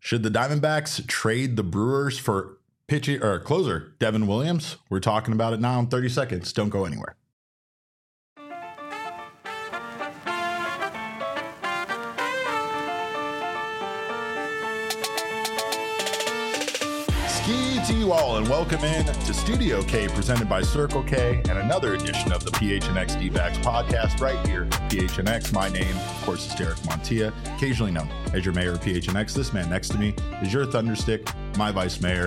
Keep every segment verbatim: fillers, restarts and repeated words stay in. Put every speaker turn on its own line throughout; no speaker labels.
Should the Diamondbacks trade the Brewers for pitcher or closer Devin Williams? We're talking about it now in thirty seconds. Don't go anywhere. Ski to you all, and welcome in to Studio K, presented by Circle K, and another edition of the P H N X D-backs podcast right here at P H N X. My name, of course, is Derek Montilla, occasionally known as your mayor of P H N X. This man next to me is your Thunderstick, my vice mayor,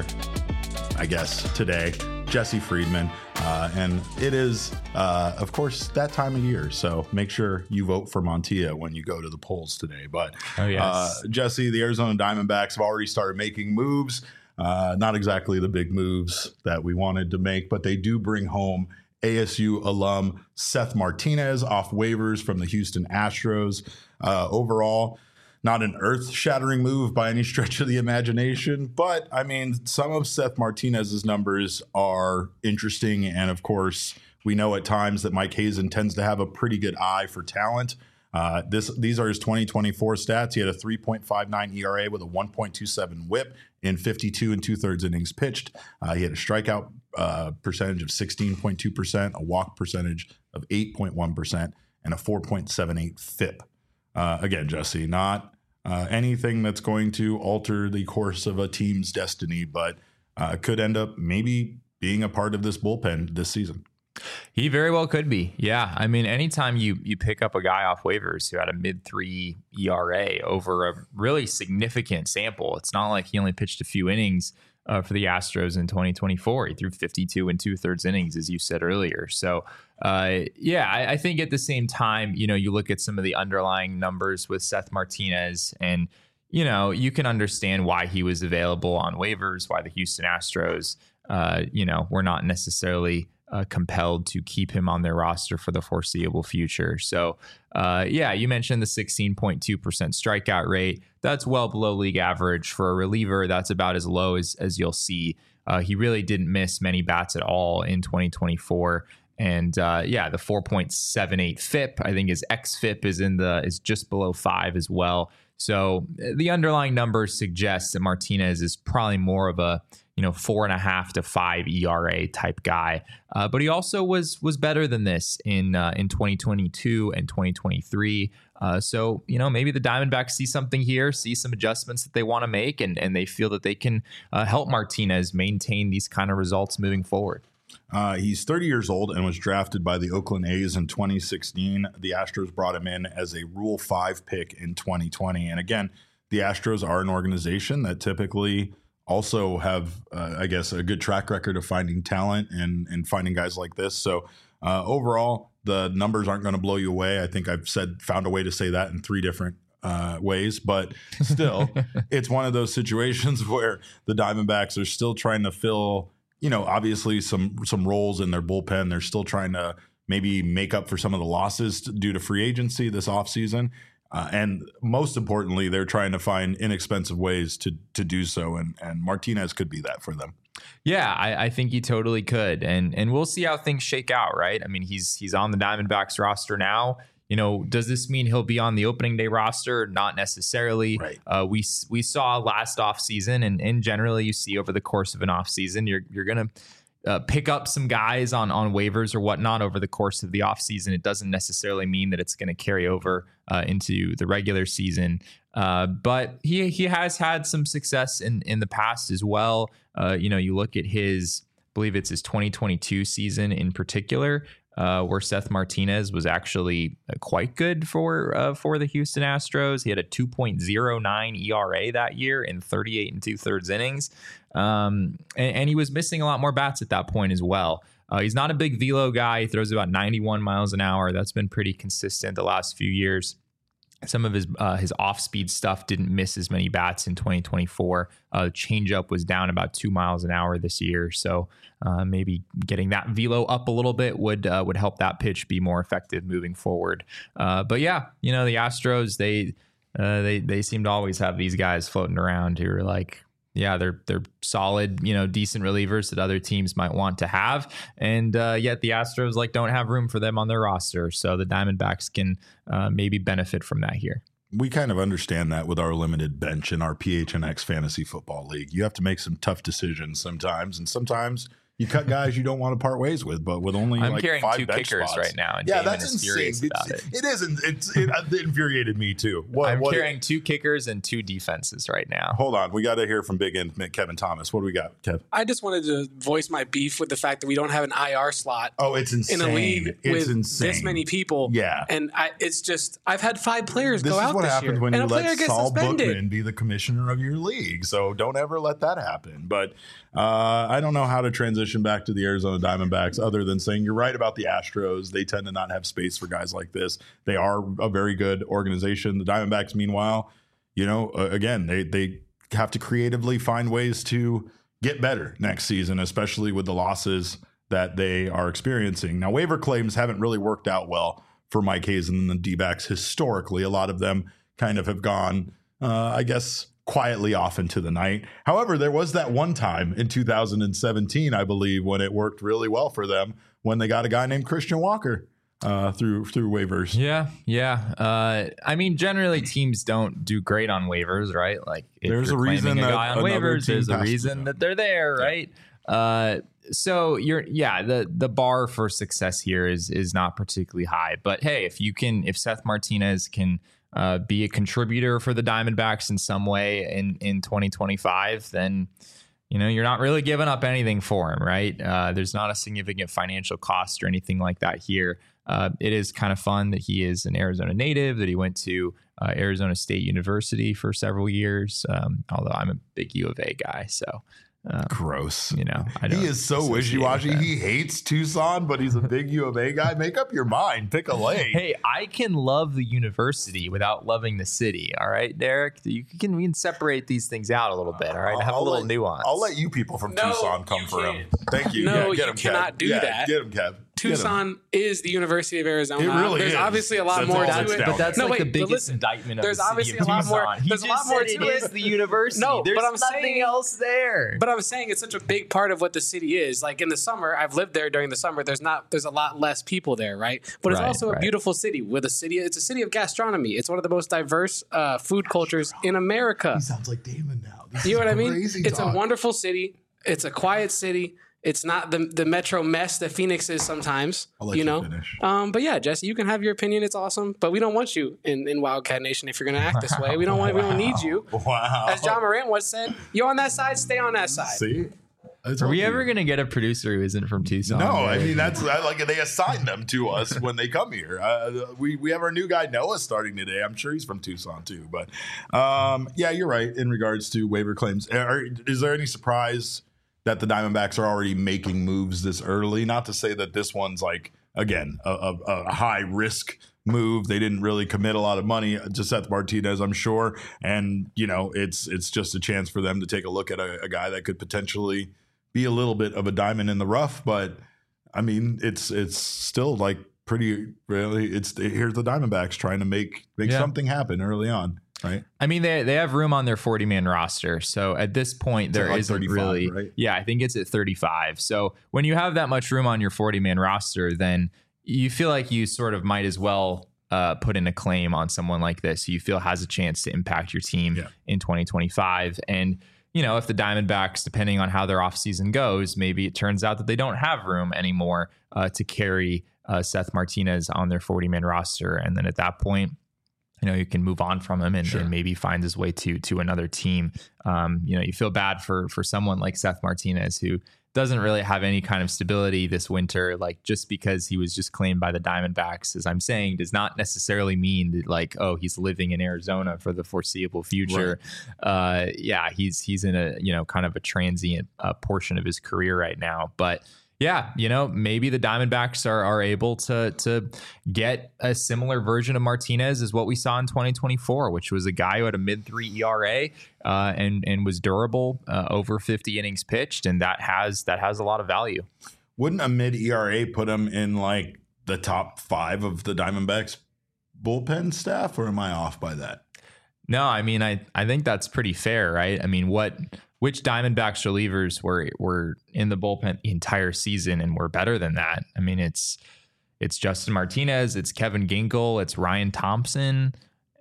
I guess, today, Jesse Friedman. Uh, and it is, uh, of course, that time of year. So make sure you vote for Montilla when you go to the polls today. But
oh, yes.
uh, Jesse, the Arizona Diamondbacks have already started making moves. Uh, not exactly the big moves that we wanted to make, but they do bring home A S U alum Seth Martinez off waivers from the Houston Astros. Uh, overall, not an earth-shattering move by any stretch of the imagination, but I mean, some of Seth Martinez's numbers are interesting, and of course, we know at times that Mike Hazen tends to have a pretty good eye for talent. Uh, this these are his twenty twenty-four stats. He had a three point five nine E R A with a one point two seven whip in fifty-two and two-thirds innings pitched. Uh, he had a strikeout uh, percentage of sixteen point two percent, a walk percentage of eight point one percent, and a four point seven eight F I P. Uh, again, Jesse, not uh, anything that's going to alter the course of a team's destiny, but uh, could end up maybe being a part of this bullpen this season.
He very well could be. Yeah. I mean, anytime you you pick up a guy off waivers who had a mid three E R A over a really significant sample, it's not like he only pitched a few innings uh, for the Astros in twenty twenty-four. He threw fifty-two and two thirds innings, as you said earlier. So, uh, yeah, I, I think at the same time, you know, you look at some of the underlying numbers with Seth Martinez and, you know, you can understand why he was available on waivers, why the Houston Astros, uh, you know, were not necessarily Uh, compelled to keep him on their roster for the foreseeable future. So, uh, yeah, you mentioned the sixteen point two percent strikeout rate. That's well below league average for a reliever. That's about as low as, as you'll see. Uh, he really didn't miss many bats at all in twenty twenty-four. And uh, yeah, the four point seven eight F I P, I think his X F I P is in the is just below five as well. So the underlying numbers suggest that Martinez is probably more of a, you know, four and a half to five E R A type guy. Uh, but he also was was better than this in uh, in twenty twenty-two and twenty twenty-three. Uh, so, you know, maybe the Diamondbacks see something here, see some adjustments that they want to make, and, and they feel that they can uh, help Martinez maintain these kind of results moving forward.
Uh, he's thirty years old and was drafted by the Oakland A's in twenty sixteen. The Astros brought him in as a Rule five pick in twenty twenty. And again, the Astros are an organization that typically also have, uh, I guess, a good track record of finding talent and, and finding guys like this. So uh, overall, the numbers aren't going to blow you away. I think I've said found a way to say that in three different uh, ways, but still, it's one of those situations where the Diamondbacks are still trying to fill, you know, obviously some some roles in their bullpen. They're still trying to maybe make up for some of the losses due to free agency this offseason. Uh, and most importantly, they're trying to find inexpensive ways to to do so. And, and Martinez could be that for them.
Yeah, I, I think he totally could. And and we'll see how things shake out, right? I mean, he's he's on the Diamondbacks roster now. You know, does this mean he'll be on the opening day roster? Not necessarily.
Right.
Uh, we we saw last offseason, and, and generally you see over the course of an offseason, you're you're going to uh, pick up some guys on, on waivers or whatnot over the course of the offseason. It doesn't necessarily mean that it's going to carry over uh, into the regular season. Uh, but he he has had some success in, in the past as well. Uh, you know, you look at his, I believe it's his twenty twenty-two season in particular, Uh, where Seth Martinez was actually uh, quite good for uh, for the Houston Astros. He had a two point oh nine E R A that year in thirty-eight and two-thirds innings. Um, and, and he was missing a lot more bats at that point as well. Uh, he's not a big velo guy. He throws about ninety-one miles an hour. That's been pretty consistent the last few years. Some of his uh, his off-speed stuff didn't miss as many bats in twenty twenty-four. Uh, changeup was down about two miles an hour this year, so uh, maybe getting that velo up a little bit would uh, would help that pitch be more effective moving forward. Uh, but yeah, you know, the Astros they uh, they they seem to always have these guys floating around who are like, yeah, they're they're solid, you know, decent relievers that other teams might want to have, and uh, yet the Astros like don't have room for them on their roster. So the Diamondbacks can uh, maybe benefit from that here.
we kind of understand that with our limited bench in our P H N X Fantasy Football League. You have to make some tough decisions sometimes, and sometimes you cut guys you don't want to part ways with, but with only
I'm
like
carrying
five
two
bench
kickers
spots.
right now, and
yeah,
Damon
that's
is
insane.
furious
It's,
about it.
It isn't. It's it, it infuriated me too. What,
I'm
what
carrying two kickers and two defenses right now.
Hold on, we got to hear from Big End Kevin Thomas. What do we got, Kev?
I just wanted to voice my beef with the fact that we don't have an I R slot.
Oh, it's insane.
In a league
it's
with
insane.
this many people.
Yeah.
And I, it's just, I've had five players
This
go
is
out
what
this
happens
year,
when
and
you
a player
let
gets
Saul
suspended.
Bookman be the commissioner of your league. So don't ever let that happen. But uh, I don't know how to transition back to the Arizona Diamondbacks other than saying you're right about the Astros. They tend to not have space for guys like this. They are a very good organization. The Diamondbacks, meanwhile, you know, uh, again, they they have to creatively find ways to get better next season, especially with the losses that they are experiencing. Now, waiver claims haven't really worked out well for Mike Hazen and the D-backs historically. A lot of them kind of have gone, uh, I guess, quietly off into the night. However, there was that one time in two thousand seventeen, I believe, when it worked really well for them when they got a guy named Christian Walker uh, through through waivers.
Yeah, yeah. Uh, I mean, generally teams don't do great on waivers, right? Like, if
There's
you're
a reason
claiming a
that
guy on
another
waivers,
team
there's a
has to
reason
know.
that they're there, right? Uh, so you're, yeah, the the bar for success here is is not particularly high. But hey, if you can, if Seth Martinez can uh, be a contributor for the Diamondbacks in some way in in twenty twenty-five, then you know you're not really giving up anything for him, right? Uh, there's not a significant financial cost or anything like that here. Uh, it is kind of fun that he is an Arizona native, that he went to uh, Arizona State University for several years. Um, although I'm a big U of A guy, so. Um,
Gross.
You know, I don't
he is so
associate
wishy-washy.
with that.
He hates Tucson, but he's a big U of A guy. Make up your mind. Pick a lane.
Hey, I can love the university without loving the city. All right, Derek, you can we can separate these things out a little bit. All right, have
I'll
a little
let,
nuance.
I'll let you people from
No,
Tucson come
you
for him.
can't.
Thank you.
No,
yeah, get
you
him,
cannot
Kev.
do
yeah,
that.
Get him, Kev. Get him.
Tucson is the University of Arizona.
It really
There's
is.
obviously a lot
That's
more
all
to
that's
it.
down
But that's
No,
like
wait,
the
but
biggest
listen,
indictment of
there's
the city
obviously
of
a lot more-
Tucson. He
there's a
just
lot more
said
to
it is
it.
the university.
No,
there's
but I'm
nothing
saying-
else there.
But I'm saying it's such a big part of what the city is. Like in the summer, I've lived there during the summer. There's not, there's a lot less people there, right? But it's
Right,
also a
right.
beautiful city with a city. It's a city of gastronomy. It's one of the most diverse uh, food cultures in America.
He sounds like Damon now. This
You know
is
what I mean?
crazy
It's
talk.
a wonderful city. It's a quiet city. It's not the the metro mess that Phoenix is sometimes.
I'll let
you
you
know.
finish.
Um, but yeah, Jesse, you can have your opinion. It's awesome, but we don't want you in, in Wildcat Nation if you're going to act this way. We don't want. We don't need you.
Wow.
As John Morant once said, "You're on that side. Stay on that side."
See? I
Are
told
we
you.
ever going to get a producer who isn't from Tucson?
No, I
Derek?
mean that's I, like they assign them to us when they come here. Uh, we we have our new guy Noah starting today. I'm sure he's from Tucson too. But um, yeah, you're right in regards to waiver claims. Are, is there any surprise that the Diamondbacks are already making moves this early? Not to say that this one's like again a, a, a high risk move. They didn't really commit a lot of money to Seth Martinez, I'm sure, and you know it's it's just a chance for them to take a look at a, a guy that could potentially be a little bit of a diamond in the rough, but I mean, it's it's still like pretty really. It's here's the Diamondbacks trying to make make
Yeah.
something happen early on, right?
I mean, they they have room on their forty man roster. So at this point,
It's at
there
like
isn't
thirty-five,
really.
right?
Yeah, I think it's at thirty-five. So when you have that much room on your forty man roster, then you feel like you sort of might as well uh, put in a claim on someone like this who you feel has a chance to impact your team
Yeah.
in twenty twenty-five. And you know, if the Diamondbacks, depending on how their offseason goes, maybe it turns out that they don't have room anymore uh, to carry uh, Seth Martinez on their forty man roster. And then at that point, you know, you can move on from him and,
Sure.
and maybe find his way to to another team. Um, you know, you feel bad for for someone like Seth Martinez who doesn't really have any kind of stability this winter. Like just because he was just claimed by the Diamondbacks, as I'm saying, does not necessarily mean that like, oh, he's living in Arizona for the foreseeable future. Uh, yeah, he's he's in a you know kind of a transient uh, portion of his career right now, but. Yeah, you know, maybe the Diamondbacks are are able to to get a similar version of Martinez as what we saw in twenty twenty-four, which was a guy who had a mid three E R A uh, and and was durable, uh, over fifty innings pitched, and that has that has a lot of value.
Wouldn't a mid E R A put him in like the top five of the Diamondbacks bullpen staff, or am I off by that?
No, I mean, I I think that's pretty fair, right? I mean, what which Diamondbacks relievers were were in the bullpen the entire season and were better than that? I mean, it's it's Justin Martinez, it's Kevin Ginkel, it's Ryan Thompson,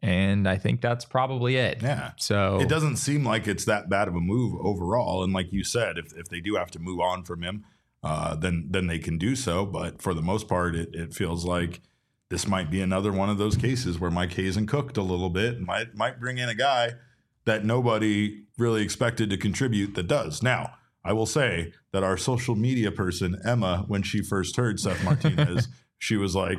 And I think that's probably it.
Yeah.
So
it doesn't seem like it's that bad of a move overall. And like you said, if, if they do have to move on from him, uh, then then they can do so. But for the most part, it, it feels like this might be another one of those cases where Mike Hazen cooked a little bit and might might bring in a guy that nobody really expected to contribute that does. Now, I will say that our social media person, Emma, when she first heard Seth Martinez, she was like,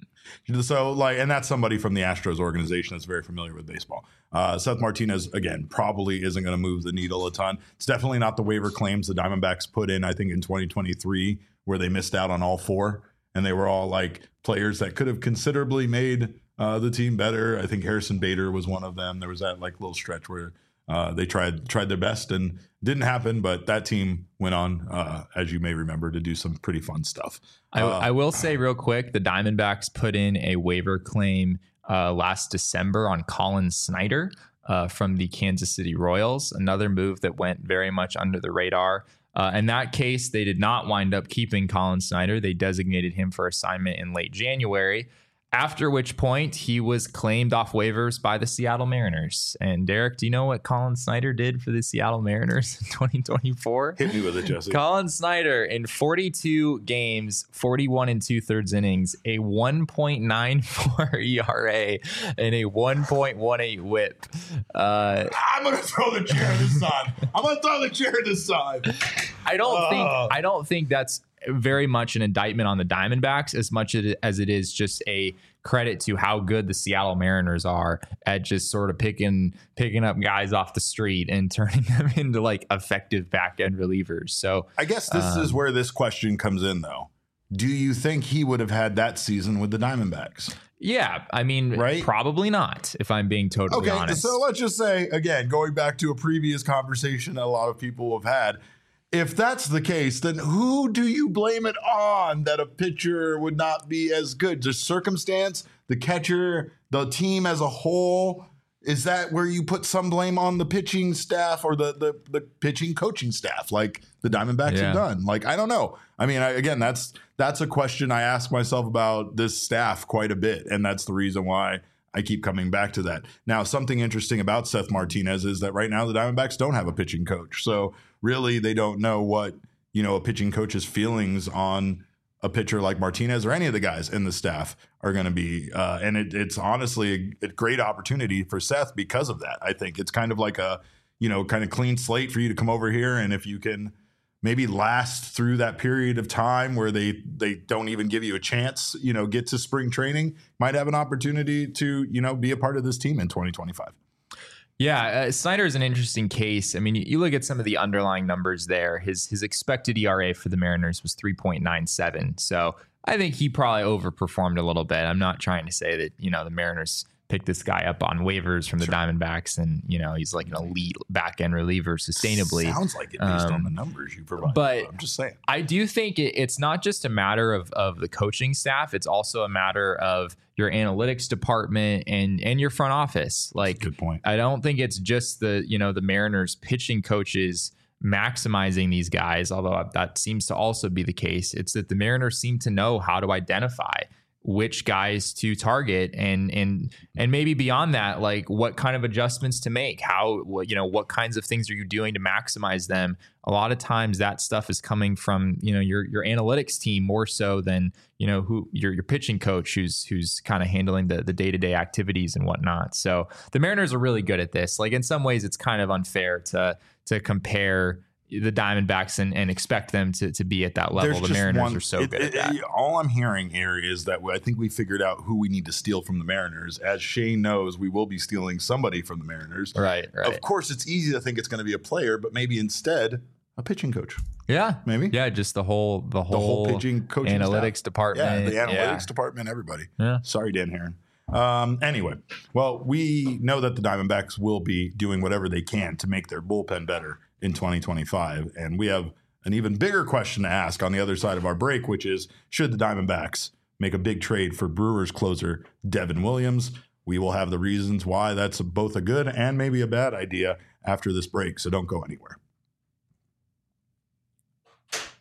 so like, and that's somebody from the Astros organization that's very familiar with baseball. Uh, Seth Martinez, again, probably isn't going to move the needle a ton. It's definitely not the waiver claims the Diamondbacks put in, I think, in twenty twenty-three, where they missed out on all four. And they were all like players that could have considerably made uh, the team better. I think Harrison Bader was one of them. There was that like little stretch where uh, they tried tried their best and didn't happen. But that team went on, uh, as you may remember, to do some pretty fun stuff.
I,
uh,
I will say real quick, the Diamondbacks put in a waiver claim uh, last December on Colin Snyder uh, from the Kansas City Royals, another move that went very much under the radar. Uh, in that case, they did not wind up keeping Colin Snyder. They designated him for assignment in late January, after which point he was claimed off waivers by the Seattle Mariners. And Derek, do you know what Colin Snyder did for the Seattle Mariners in twenty twenty-four?
Hit me with it, Jesse.
Colin Snyder in forty-two games, forty-one and two thirds innings, a one point nine four E R A and a one point one eight whip. Uh,
I'm gonna throw the chair this time. I'm gonna throw the chair this time.
I don't
uh.
think I don't think that's very much an indictment on the Diamondbacks as much as it is just a credit to how good the Seattle Mariners are at just sort of picking picking up guys off the street and turning them into like effective back end relievers. So
I guess this um, is where this question comes in, though. Do you think he would have had that season with the Diamondbacks?
Yeah, I mean, right? Probably not, if I'm being totally
okay,
honest.
So let's just say, again, going back to a previous conversation that a lot of people have had, if that's the case, then who do you blame it on that a pitcher would not be as good? Just circumstance, the catcher, the team as a whole? Is that where you put some blame on the pitching staff or the the, the pitching coaching staff, like the Diamondbacks
yeah.
have done? Like, I don't know. I mean, I, again, that's that's a question I ask myself about this staff quite a bit, and that's the reason why I keep coming back to that. Now, something interesting about Seth Martinez is that right now the Diamondbacks don't have a pitching coach. So really they don't know what, you know, a pitching coach's feelings on a pitcher like Martinez or any of the guys in the staff are going to be. Uh, and it, it's honestly a, a great opportunity for Seth because of that. I think it's kind of like a, you know, kind of clean slate for you to come over here. And if you can maybe last through that period of time where they they don't even give you a chance, you know, get to spring training, might have an opportunity to, you know, be a part of this team in twenty twenty-five.
Yeah, uh, Snyder is an interesting case. I mean, you, you look at some of the underlying numbers there. His his expected E R A for the Mariners was three point nine seven. So I think he probably overperformed a little bit. I'm not trying to say that, you know, the Mariners pick this guy up on waivers from the sure. Diamondbacks and, you know, he's like an elite back end reliever sustainably.
Sounds like it based
um,
on the numbers you provide.
But
I'm just saying.
I do think it, it's not just a matter of, of the coaching staff. It's also a matter of your analytics department and, and your front office. Like,
good point.
I don't think it's just the, you know, the Mariners pitching coaches maximizing these guys, although that seems to also be the case. It's that the Mariners seem to know how to identify which guys to target and and and maybe beyond that, like what kind of adjustments to make, how, you know, what kinds of things are you doing to maximize them. A lot of times that stuff is coming from, you know, your your analytics team more so than, you know, who your your pitching coach who's who's kind of handling the the day-to-day activities and whatnot. So the Mariners are really good at this. Like in some ways it's kind of unfair to to compare the Diamondbacks and, and expect them to, to be at that level.
There's
the Mariners
one,
are so
it,
good
it,
at that.
It, all I'm hearing here is that I think we figured out who we need to steal from the Mariners. As Shane knows, we will be stealing somebody from the Mariners.
Right, right.
Of course, it's easy to think it's going to be a player, but maybe instead a pitching coach.
Yeah,
maybe.
Yeah, just the whole the whole,
the whole pitching coaching
analytics
staff.
department.
Yeah, the analytics
yeah.
department, everybody.
Yeah.
Sorry, Dan Herron. Um, anyway, well, we know that the Diamondbacks will be doing whatever they can to make their bullpen better in twenty twenty-five, and we have an even bigger question to ask on the other side of our break, which is, should the Diamondbacks make a big trade for Brewers closer Devin Williams? We will have the reasons why that's both a good and maybe a bad idea after this break, so don't go anywhere. Of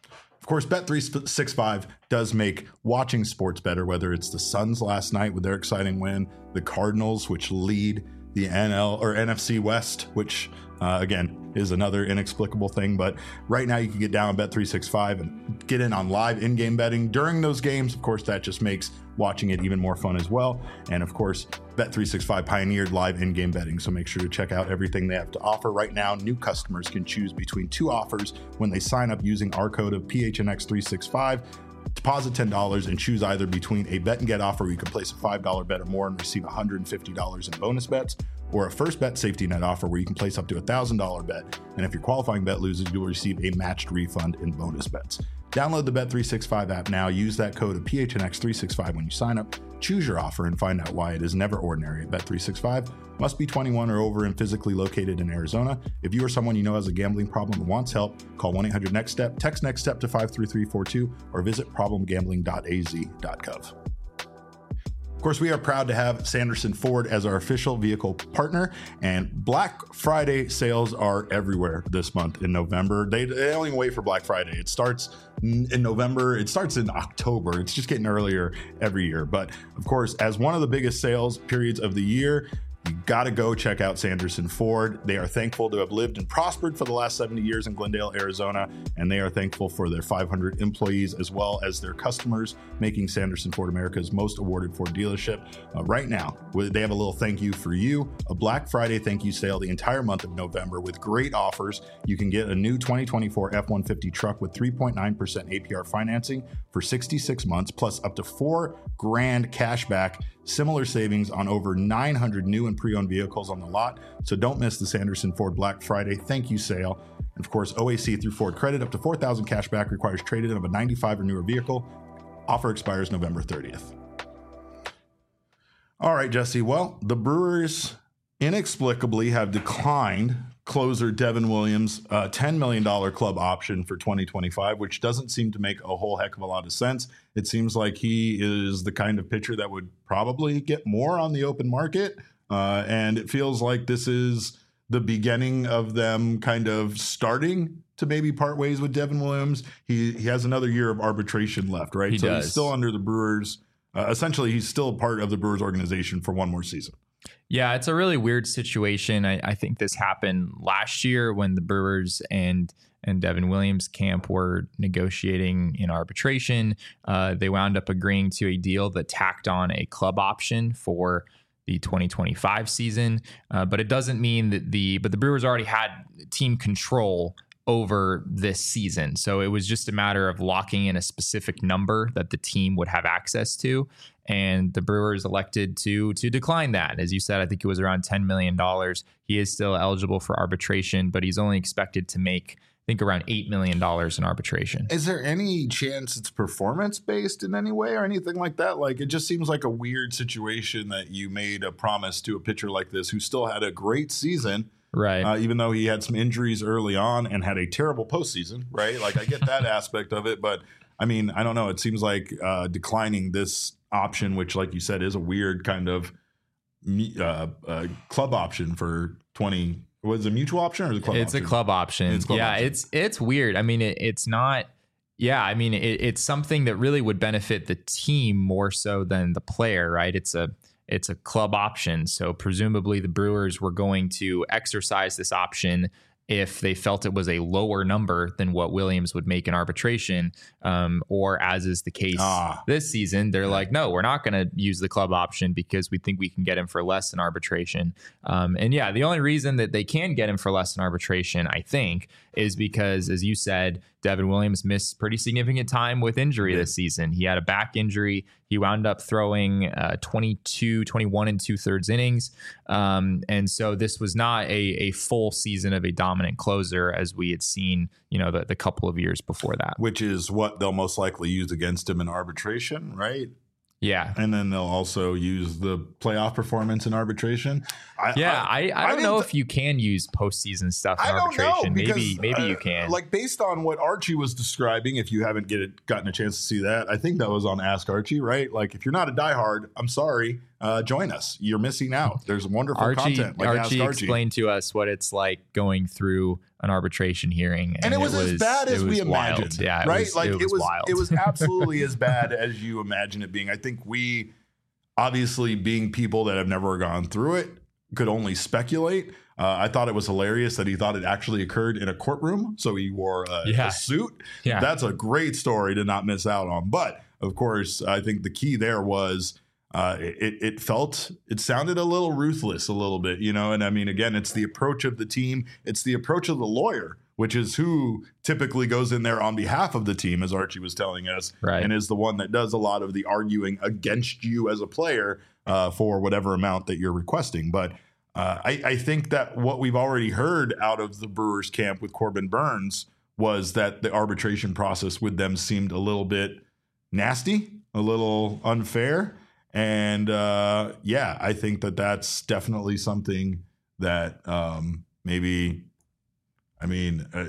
course, Bet three sixty-five does make watching sports better, whether it's the Suns last night with their exciting win, the Cardinals, which lead the N L or N F C West, which uh, again is another inexplicable thing. But right now you can get down on Bet three sixty-five and get in on live in-game betting during those games. Of course, that just makes watching it even more fun as well. And of course, Bet three sixty-five pioneered live in-game betting, so make sure to check out everything they have to offer. Right now, new customers can choose between two offers when they sign up using our code of P H N X three sixty-five. Deposit ten dollars and choose either between a bet and get offer where you can place a five dollars bet or more and receive one hundred fifty dollars in bonus bets, or a first bet safety net offer where you can place up to a one thousand dollars bet, and if your qualifying bet loses, you'll receive a matched refund in bonus bets. Download the Bet three sixty-five app now. Use that code of P H N X three sixty-five when you sign up. Choose your offer and find out why it is never ordinary at Bet three sixty-five. Must be twenty-one or over and physically located in Arizona. If you or someone you know has a gambling problem and wants help, call one eight hundred next step, text NEXTSTEP to five three three four two, or visit problem gambling dot a z dot gov. Of course, we are proud to have Sanderson Ford as our official vehicle partner, and Black Friday sales are everywhere this month in November. They, they don't even wait for Black Friday. It starts in November. It starts in October. It's just getting earlier every year. But of course, as one of the biggest sales periods of the year, you got to go check out Sanderson Ford. They are thankful to have lived and prospered for the last seventy years in Glendale, Arizona, and they are thankful for their five hundred employees as well as their customers, making Sanderson Ford America's most awarded Ford dealership. Uh, right now, they have a little thank you for you, a Black Friday thank you sale the entire month of November with great offers. You can get a new twenty twenty-four F one fifty truck with three point nine percent A P R financing for sixty-six months, plus up to four grand cash back. Similar savings on over nine hundred new and pre-owned vehicles on the lot. So don't miss the Sanderson Ford Black Friday thank you sale. And of course, O A C through Ford Credit up to four thousand cash back, requires trade-in of a ninety-five or newer vehicle. Offer expires November thirtieth. All right, Jesse. Well, the Brewers inexplicably have declined closer Devin Williams' uh, ten million dollars club option for twenty twenty-five, which doesn't seem to make a whole heck of a lot of sense. It seems like he is the kind of pitcher that would probably get more on the open market. Uh, and it feels like this is the beginning of them kind of starting to maybe part ways with Devin Williams. He he has another year of arbitration left, right?
He
so
does.
He's still under the Brewers. Uh, essentially, he's still part of the Brewers organization for one more season.
Yeah, it's a really weird situation. I, I think this happened last year when the Brewers and and Devin Williams' camp were negotiating in arbitration. Uh, they wound up agreeing to a deal that tacked on a club option for the twenty twenty-five season. Uh, but it doesn't mean that the but the Brewers already had team control over this season. So it was just a matter of locking in a specific number that the team would have access to. And the Brewers elected to to decline that. As you said, I think it was around ten million dollars. He is still eligible for arbitration, but he's only expected to make, I think, around eight million dollars in arbitration.
Is there any chance it's performance-based in any way or anything like that? Like, it just seems like a weird situation that you made a promise to a pitcher like this who still had a great season.
Right.
Uh, even though he had some injuries early on and had a terrible postseason, right? Like, I get that aspect of it, but I mean, I don't know. It seems like uh, declining this option, which, like you said, is a weird kind of uh, uh, club option for twenty. Was it a mutual option or is it a club
it's
option?
a club option.
It's club
yeah,
option.
it's it's weird. I mean, it, it's not. Yeah, I mean, it, it's something that really would benefit the team more so than the player, right? It's a it's a club option, so presumably the Brewers were going to exercise this option if they felt it was a lower number than what Williams would make in arbitration, um, or as is the case
Ah.
this season, they're like, no, we're not going to use the club option because we think we can get him for less in arbitration. Um, and yeah, the only reason that they can get him for less in arbitration, I think, is because, as you said, Devin Williams missed pretty significant time with injury this season. He had a back injury. He wound up throwing uh, twenty-two, twenty-one and two thirds innings. Um, and so this was not a, a full season of a dominant closer as we had seen, you know, the, the couple of years before that.
Which is what they'll most likely use against him in arbitration, right?
Yeah.
And then they'll also use the playoff performance in arbitration. I,
Yeah, I, I,
I
don't know
didn't-
if you can use postseason stuff in
I don't know,
arbitration.
because,
maybe maybe
uh,
you can.
Like, based on what Archie was describing, if you haven't get it, gotten a chance to see that, I think that was on Ask Archie, right? Like, if you're not a diehard, I'm sorry. uh, join us. You're missing out. There's wonderful
Archie,
content. Like
Archie,
Archie
explained to us what it's like going through an arbitration hearing,
and, and it, was it was as bad as we
wild.
imagined.
Yeah, it
right?
Was,
like
it was,
it was,
wild.
it was absolutely as bad as you imagine it being. I think we, obviously, being people that have never gone through it, could only speculate. Uh, I thought it was hilarious that he thought it actually occurred in a courtroom. So he wore a,
yeah.
a suit.
Yeah.
That's a great story to not miss out on. But of course, I think the key there was uh, it, it felt, it sounded a little ruthless a little bit, you know? And I mean, again, it's the approach of the team. It's the approach of the lawyer, which is who typically goes in there on behalf of the team, as Archie was telling us,
right.
and is the one that does a lot of the arguing against you as a player uh, for whatever amount that you're requesting. But Uh, I, I think that what we've already heard out of the Brewers camp with Corbin Burns was that the arbitration process with them seemed a little bit nasty, a little unfair. And uh, yeah, I think that that's definitely something that um, maybe, I mean, uh,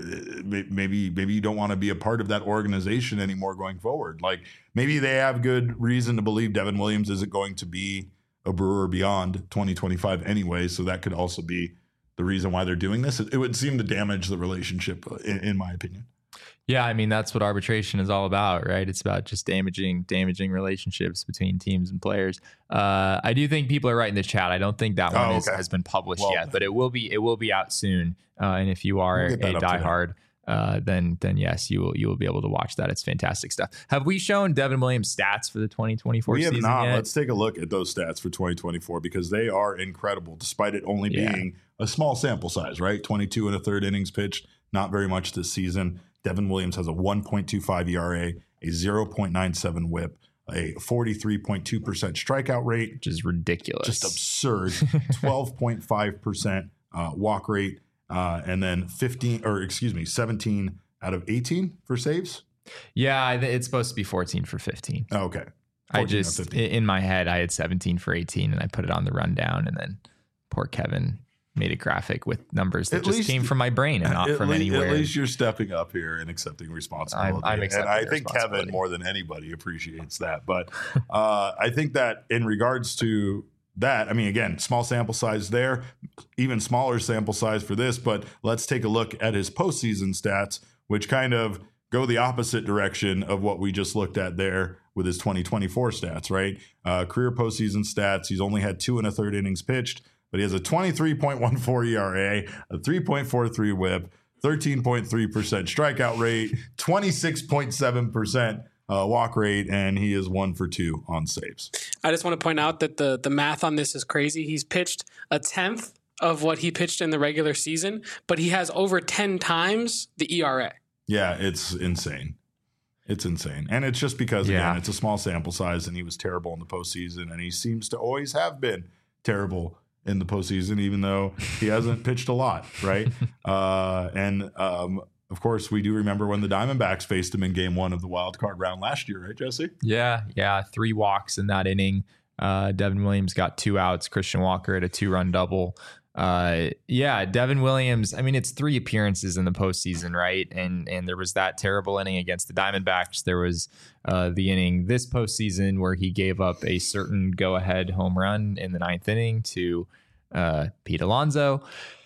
maybe maybe you don't want to be a part of that organization anymore going forward. Like maybe they have good reason to believe Devin Williams isn't going to be a Brewer beyond twenty twenty-five anyway, so that could also be the reason why they're doing this. It, it would seem to damage the relationship, in, in my opinion.
Yeah, I mean that's what arbitration is all about, right? It's about just damaging damaging relationships between teams and players. Uh, I do think people are right in the chat. I don't think that one
oh, okay.
is, has been published
well,
yet, but it will be. It will be out soon. Uh, and if you are
we'll
a diehard, uh, then then yes, you will you will be able to watch that. It's fantastic stuff. Have we shown Devin Williams stats for the twenty twenty-four
we
season?
We have not.
Yet?
Let's take a look at those stats for twenty twenty-four because they are incredible, despite it only
yeah.
being a small sample size, right? twenty-two and a third innings pitched, not very much this season. Devin Williams has a one point two five E R A, a zero point nine seven whip, a forty-three point two percent strikeout rate,
which is ridiculous,
just absurd. twelve point five percent uh, walk rate, uh, and then fifteen, or excuse me, seventeen out of eighteen for saves.
Yeah, it's supposed to be fourteen for fifteen.
Oh, okay.
I just, in my head, I had seventeen for eighteen, and I put it on the rundown, and then poor Kevin made a graphic with numbers that at just least, came from my brain and not from
le-
anywhere.
At least you're stepping up here and accepting responsibility.
I'm, I'm accepting
and I think Kevin, more than anybody, appreciates that. But uh, I think that in regards to that, I mean, again, small sample size there, even smaller sample size for this. But let's take a look at his postseason stats, which kind of go the opposite direction of what we just looked at there with his twenty twenty-four stats, right? Uh, career postseason stats, he's only had two and a third innings pitched, but he has a twenty-three point one four E R A, a three point four three whip, thirteen point three percent strikeout rate, twenty-six point seven percent uh, walk rate, and he is one for two on saves.
I just want to point out that the the math on this is crazy. He's pitched a tenth of what he pitched in the regular season, but he has over ten times the E R A.
Yeah, it's insane. It's insane. And it's just because,
yeah.
again, it's a small sample size, and he was terrible in the postseason, and he seems to always have been terrible in the postseason, even though he hasn't pitched a lot, right? Uh, and, um, of course, we do remember when the Diamondbacks faced him in game one of the wild card round last year, right, Jesse?
Yeah, yeah. Three walks in that inning. Uh, Devin Williams got two outs. Christian Walker had a two-run double. Uh, yeah, Devin Williams, I mean, it's three appearances in the postseason, right? And and there was that terrible inning against the Diamondbacks. There was uh, the inning this postseason where he gave up a certain go-ahead home run in the ninth inning to uh, Pete Alonso.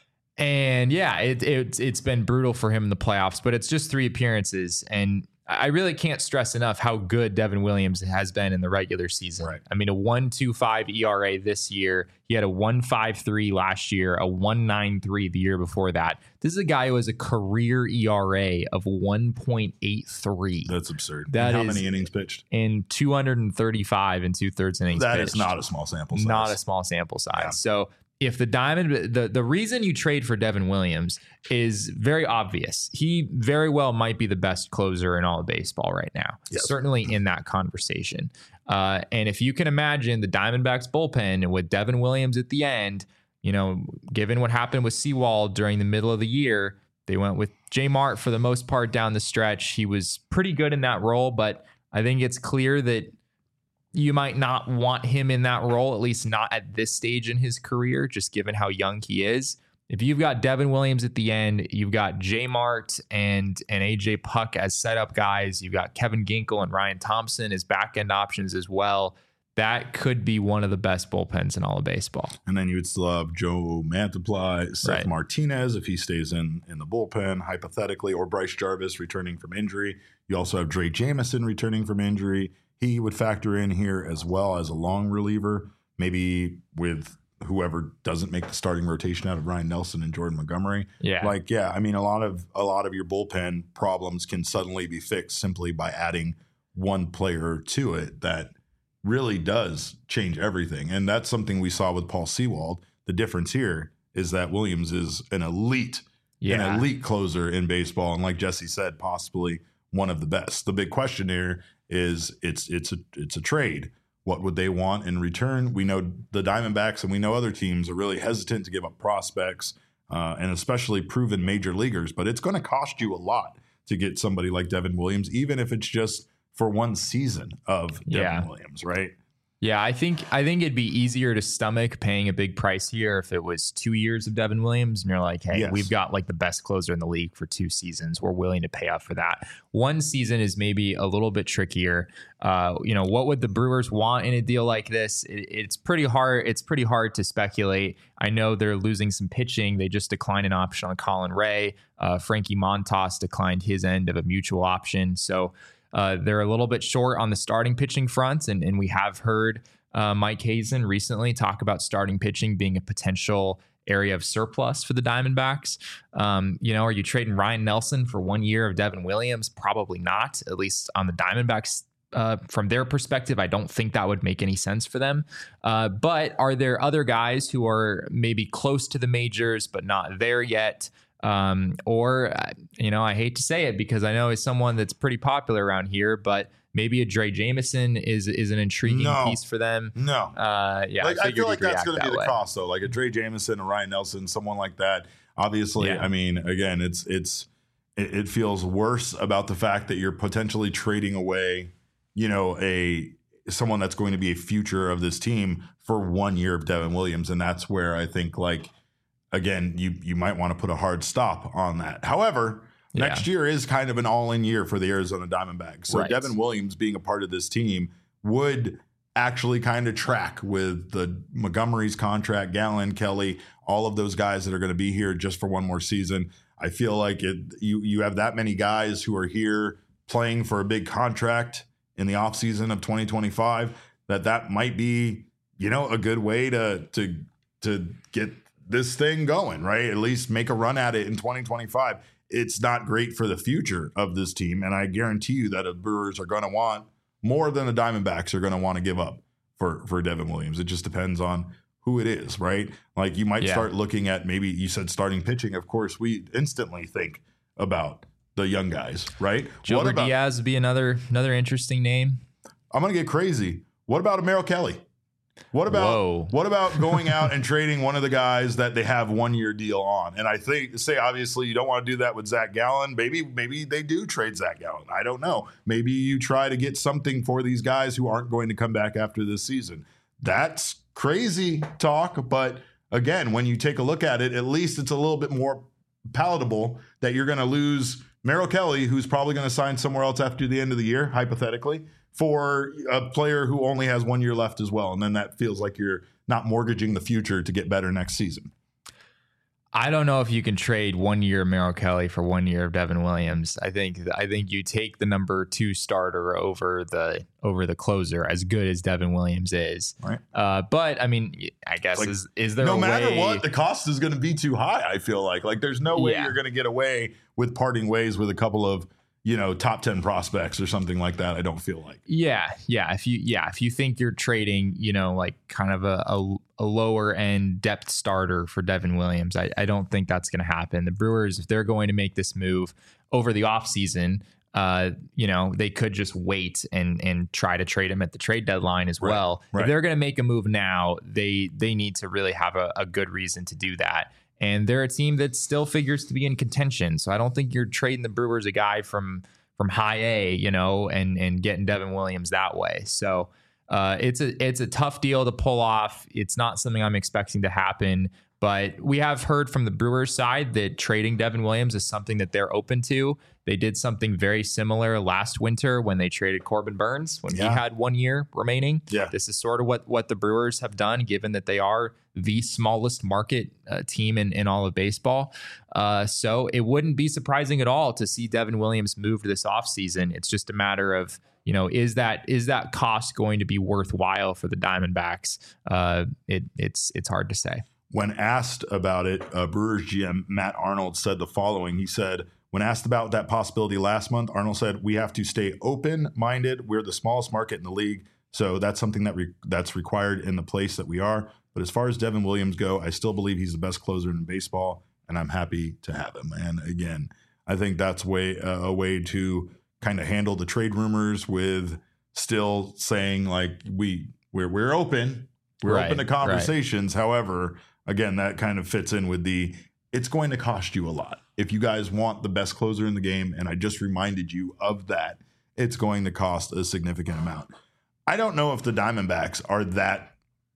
And yeah, it, it, it's been brutal for him in the playoffs, but it's just three appearances. And I really can't stress enough how good Devin Williams has been in the regular season.
Right.
I mean, a one point two five E R A this year. He had a one point five three last year, a one point nine three the year before that. This is a guy who has a career E R A of one point eight three.
That's absurd.
That
and how
is
many innings pitched?
In two hundred thirty-five and two-thirds innings
That
pitched.
is not a small sample size.
Not a small sample size.
Yeah.
So if the Diamond, the, the reason you trade for Devin Williams is very obvious. He very well might be the best closer in all of baseball right now.
Yes.
Certainly in that conversation. Uh, and if you can imagine the Diamondbacks bullpen with Devin Williams at the end, you know, given what happened with Sewald during the middle of the year, they went with J Mart for the most part down the stretch. He was pretty good in that role, but I think it's clear that you might not want him in that role, at least not at this stage in his career, just given how young he is. If you've got Devin Williams at the end, you've got J Mart and, and A J Puck as setup guys. You've got Kevin Ginkel and Ryan Thompson as back end options as well. that could be one of the best bullpens in all of baseball.
And then you would still have Joe Mantiply, Seth
Right.
Martinez, if he stays in in the bullpen, hypothetically, or Bryce Jarvis returning from injury. You also have Dre Jamison returning from injury. He would factor in here as well as a long reliever, maybe with whoever doesn't make the starting rotation out of Ryan Nelson and Jordan Montgomery.
Yeah.
Like, yeah, I mean, a lot of a lot of your bullpen problems can suddenly be fixed simply by adding one player to it that really does change everything. And that's something we saw with Paul Sewald. The difference here is that Williams is an elite,
Yeah.
an elite closer in baseball. And like Jesse said, possibly one of the best. The big question here is it's it's a it's a trade. What would they want in return? We know the Diamondbacks and we know other teams are really hesitant to give up prospects uh, and especially proven major leaguers, but it's going to cost you a lot to get somebody like Devin Williams, even if it's just for one season of Devin
Yeah.
Williams, right?
Yeah, I think I think it'd be easier to stomach paying a big price here if it was two years of Devin Williams and you're like, hey,
Yes.
we've got like the best closer in the league for two seasons. We're willing to pay up for that. One season is maybe a little bit trickier. Uh, you know, what would the Brewers want in a deal like this? It, it's pretty hard. It's pretty hard to speculate. I know they're losing some pitching. They just declined an option on Colin Ray. Uh, Frankie Montas declined his end of a mutual option. So Uh, they're a little bit short on the starting pitching front, and, and we have heard uh, Mike Hazen recently talk about starting pitching being a potential area of surplus for the Diamondbacks. Um, you know, are you trading Ryan Nelson for one year of Devin Williams? Probably not, at least on the Diamondbacks. Uh, from their perspective, I don't think that would make any sense for them. Uh, but are there other guys who are maybe close to the majors but not there yet? Um, or, uh, you know, I hate to say it because I know he's someone that's pretty popular around here, but maybe a Dre Jamison is is an intriguing
No.
piece for them.
No.
Uh, yeah,
like,
I,
I feel like
you'd
that's
react
going to
that
be the
way.
cost, though. Like a Dre Jamison, a Ryan Nelson, someone like that. Obviously,
Yeah.
I mean, again, it's it's it, it feels worse about the fact that you're potentially trading away, you know, a someone that's going to be a future of this team for one year of Devin Williams, and that's where I think, like, again, you you might want to put a hard stop on that. However,
Yeah.
next year is kind of an all-in year for the Arizona Diamondbacks. So
Right.
Devin Williams being a part of this team would actually kind of track with the Montgomery's contract, Gallen, Kelly, all of those guys that are going to be here just for one more season. I feel like it you you have that many guys who are here playing for a big contract in the offseason of twenty twenty-five that that might be, you know, a good way to to to get this thing going, right? At least make a run at it in twenty twenty-five. It's not great for the future of this team. And I guarantee you that the Brewers are going to want more than the Diamondbacks are going to want to give up for, for Devin Williams. It just depends on who it is, right? Like you might
Yeah.
start looking at maybe you said starting pitching. Of course, we instantly think about the young guys, right?
Gilbert
what about,
Diaz would be another another interesting name.
I'm going to get crazy. What about a Merrill Kelly? What about
Whoa.
what about going out and trading one of the guys that they have one year deal on? And I think say obviously you don't want to do that with Zach Gallen. Maybe maybe they do trade Zach Gallen. I don't know. Maybe you try to get something for these guys who aren't going to come back after this season. That's crazy talk, but again, when you take a look at it, at least it's a little bit more palatable that you're going to lose Merrill Kelly, who's probably going to sign somewhere else after the end of the year, hypothetically, for a player who only has one year left as well. And then that feels like you're not mortgaging the future to get better next season.
I don't know if you can trade one year of Merrill Kelly for one year of Devin Williams. I think I think you take the number two starter over the over the closer, as good as Devin Williams is.
Right.
Uh, but I mean, I guess
Like,
is is there
No
a
matter
way,
what, the cost is going to be too high, I feel like. Like there's no way
Yeah.
you're going to get away with parting ways with a couple of, you know, top ten prospects or something like that. I don't feel like.
Yeah, yeah. If you yeah, if you think you're trading, you know, like kind of a, a, a lower end depth starter for Devin Williams, I, I don't think that's going to happen. The Brewers, if they're going to make this move over the offseason, uh, you know, they could just wait and and try to trade him at the trade deadline as
Right,
well.
right.
If they're going to make a move now, they they need to really have a, a good reason to do that. And they're a team that still figures to be in contention. So I don't think you're trading the Brewers a guy from from high A, you know, and and getting Devin Williams that way. So uh, it's a it's a tough deal to pull off. It's not something I'm expecting to happen. But we have heard from the Brewers side that trading Devin Williams is something that they're open to. They did something very similar last winter when they traded Corbin Burns when
Yeah.
he had one year remaining.
Yeah.
This is sort of what, what the Brewers have done, given that they are the smallest market uh, team in, in all of baseball. Uh, so it wouldn't be surprising at all to see Devin Williams moved this offseason. It's just a matter of, you know, is that is that cost going to be worthwhile for the Diamondbacks? Uh, it, it's it's hard to say.
When asked about it, uh, Brewers G M Matt Arnold said the following. He said, when asked about that possibility last month, Arnold said, we have to stay open-minded. We're the smallest market in the league, so that's something that re- that's required in the place that we are. But as far as Devin Williams go, I still believe he's the best closer in baseball, and I'm happy to have him. And again, I think that's way uh, a way to kind of handle the trade rumors with still saying like we we're we're open, we're
Right,
open to
right.
conversations. However, again, that kind of fits in with the it's going to cost you a lot if you guys want the best closer in the game. And I just reminded you of that. It's going to cost a significant amount. I don't know if the Diamondbacks are that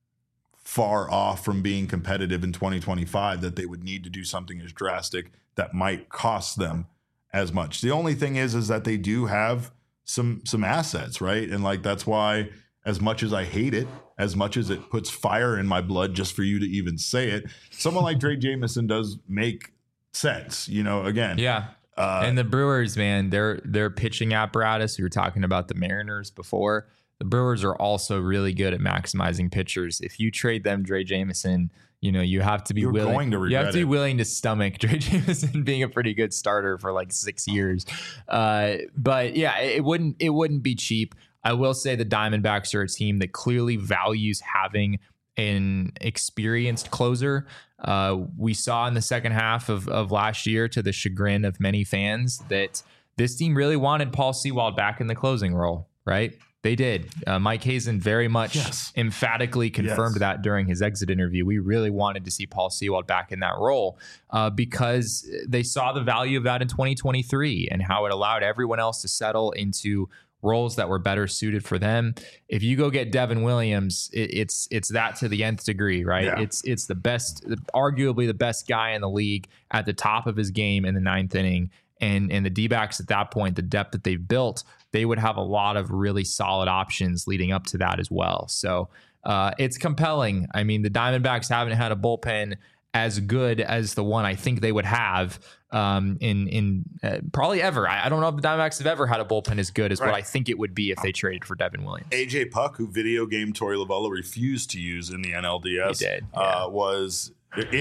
far off from being competitive in twenty twenty-five that they would need to do something as drastic that might cost them as much. The only thing is, is that they do have some some assets, right? And like that's why, as much as I hate it, as much as it puts fire in my blood just for you to even say it, someone like Drake Jameson does make sense. You know, again,
Yeah.
Uh,
and the Brewers, man, their their pitching apparatus. We were talking about the Mariners before. The Brewers are also really good at maximizing pitchers. If you trade them Dre Jameson, you know you have to be
You're
willing.
going to
you
regret
have to be
it.
willing to stomach Dre Jameson being a pretty good starter for like six years. Uh, but yeah, it, it wouldn't it wouldn't be cheap. I will say the Diamondbacks are a team that clearly values having an experienced closer. Uh, we saw in the second half of, of last year, to the chagrin of many fans, that this team really wanted Paul Sewald back in the closing role, right? They did. Uh, Mike Hazen very much
Yes.
emphatically confirmed
Yes.
that during his exit interview. We really wanted to see Paul Sewald back in that role uh, because they saw the value of that in twenty twenty-three and how it allowed everyone else to settle into roles that were better suited for them. If you go get Devin Williams, it, it's it's that to the nth degree, right?
Yeah.
It's it's the best, arguably the best guy in the league at the top of his game in the ninth inning. And and the D-backs at that point, the depth that they've built, they would have a lot of really solid options leading up to that as well. So uh, it's compelling. I mean, the Diamondbacks haven't had a bullpen as good as the one I think they would have um, in in uh, probably ever. I, I don't know if the Diamondbacks have ever had a bullpen as good as what
Right.
I think it would be if they traded for Devin Williams.
A J Puck, who video game Torey Lovullo refused to use in the N L D S,
He did,
uh, was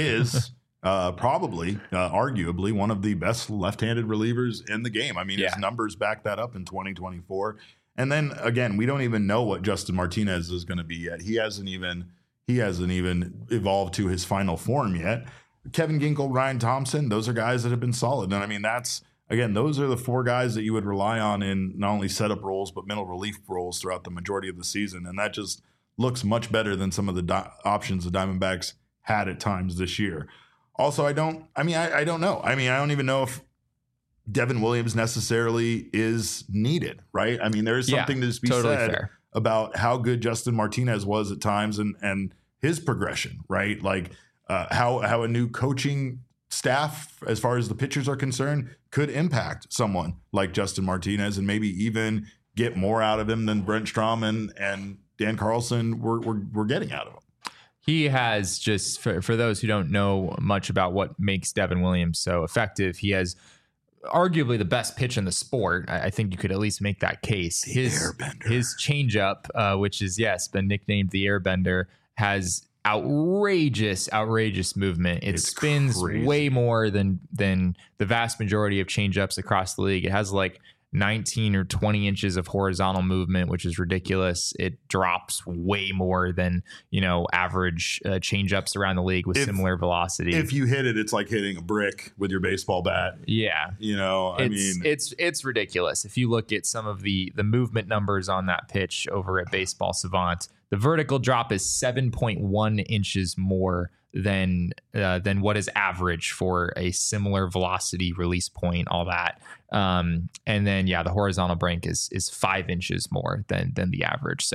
is uh, probably, uh, arguably, one of the best left-handed relievers in the game. I mean,
Yeah.
his numbers back that up in twenty twenty-four. And then again, we don't even know what Justin Martinez is going to be yet. He hasn't even he hasn't even evolved to his final form yet. Kevin Ginkel, Ryan Thompson, those are guys that have been solid. And I mean, that's again, those are the four guys that you would rely on in not only setup roles but middle relief roles throughout the majority of the season. And that just looks much better than some of the di- options the Diamondbacks had at times this year. Also, I don't. I mean, I, I don't know. I mean, I don't even know if Devin Williams necessarily is needed, right? I mean, there is
Yeah,
something to just be
totally
said
fair.
about how good Justin Martinez was at times and and his progression, right? Like uh, how how a new coaching staff, as far as the pitchers are concerned, could impact someone like Justin Martinez and maybe even get more out of him than Brent Strom and, and Dan Carlson were, were were getting out of him.
He has just, for, for those who don't know much about what makes Devin Williams so effective, he has arguably the best pitch in the sport. I, I think you could at least make that case.
The
His
Airbender.
his changeup, uh, which is yes, been nicknamed the Airbender, has outrageous, outrageous movement. It
It's
spins
crazy.
way more than than the vast majority of changeups across the league. It has like nineteen or twenty inches of horizontal movement, which is ridiculous. It drops way more than, you know, average uh, changeups around the league with
If-
similar velocity.
If you hit it, it's like hitting a brick with your baseball bat.
yeah.
You know, I
It's
mean,
it's it's ridiculous. If you look at some of the the movement numbers on that pitch over at Baseball Savant, the vertical drop is seven point one inches more than uh, than what is average for a similar velocity release point, all that. Um, and then yeah, the horizontal break is is five inches more than than the average. So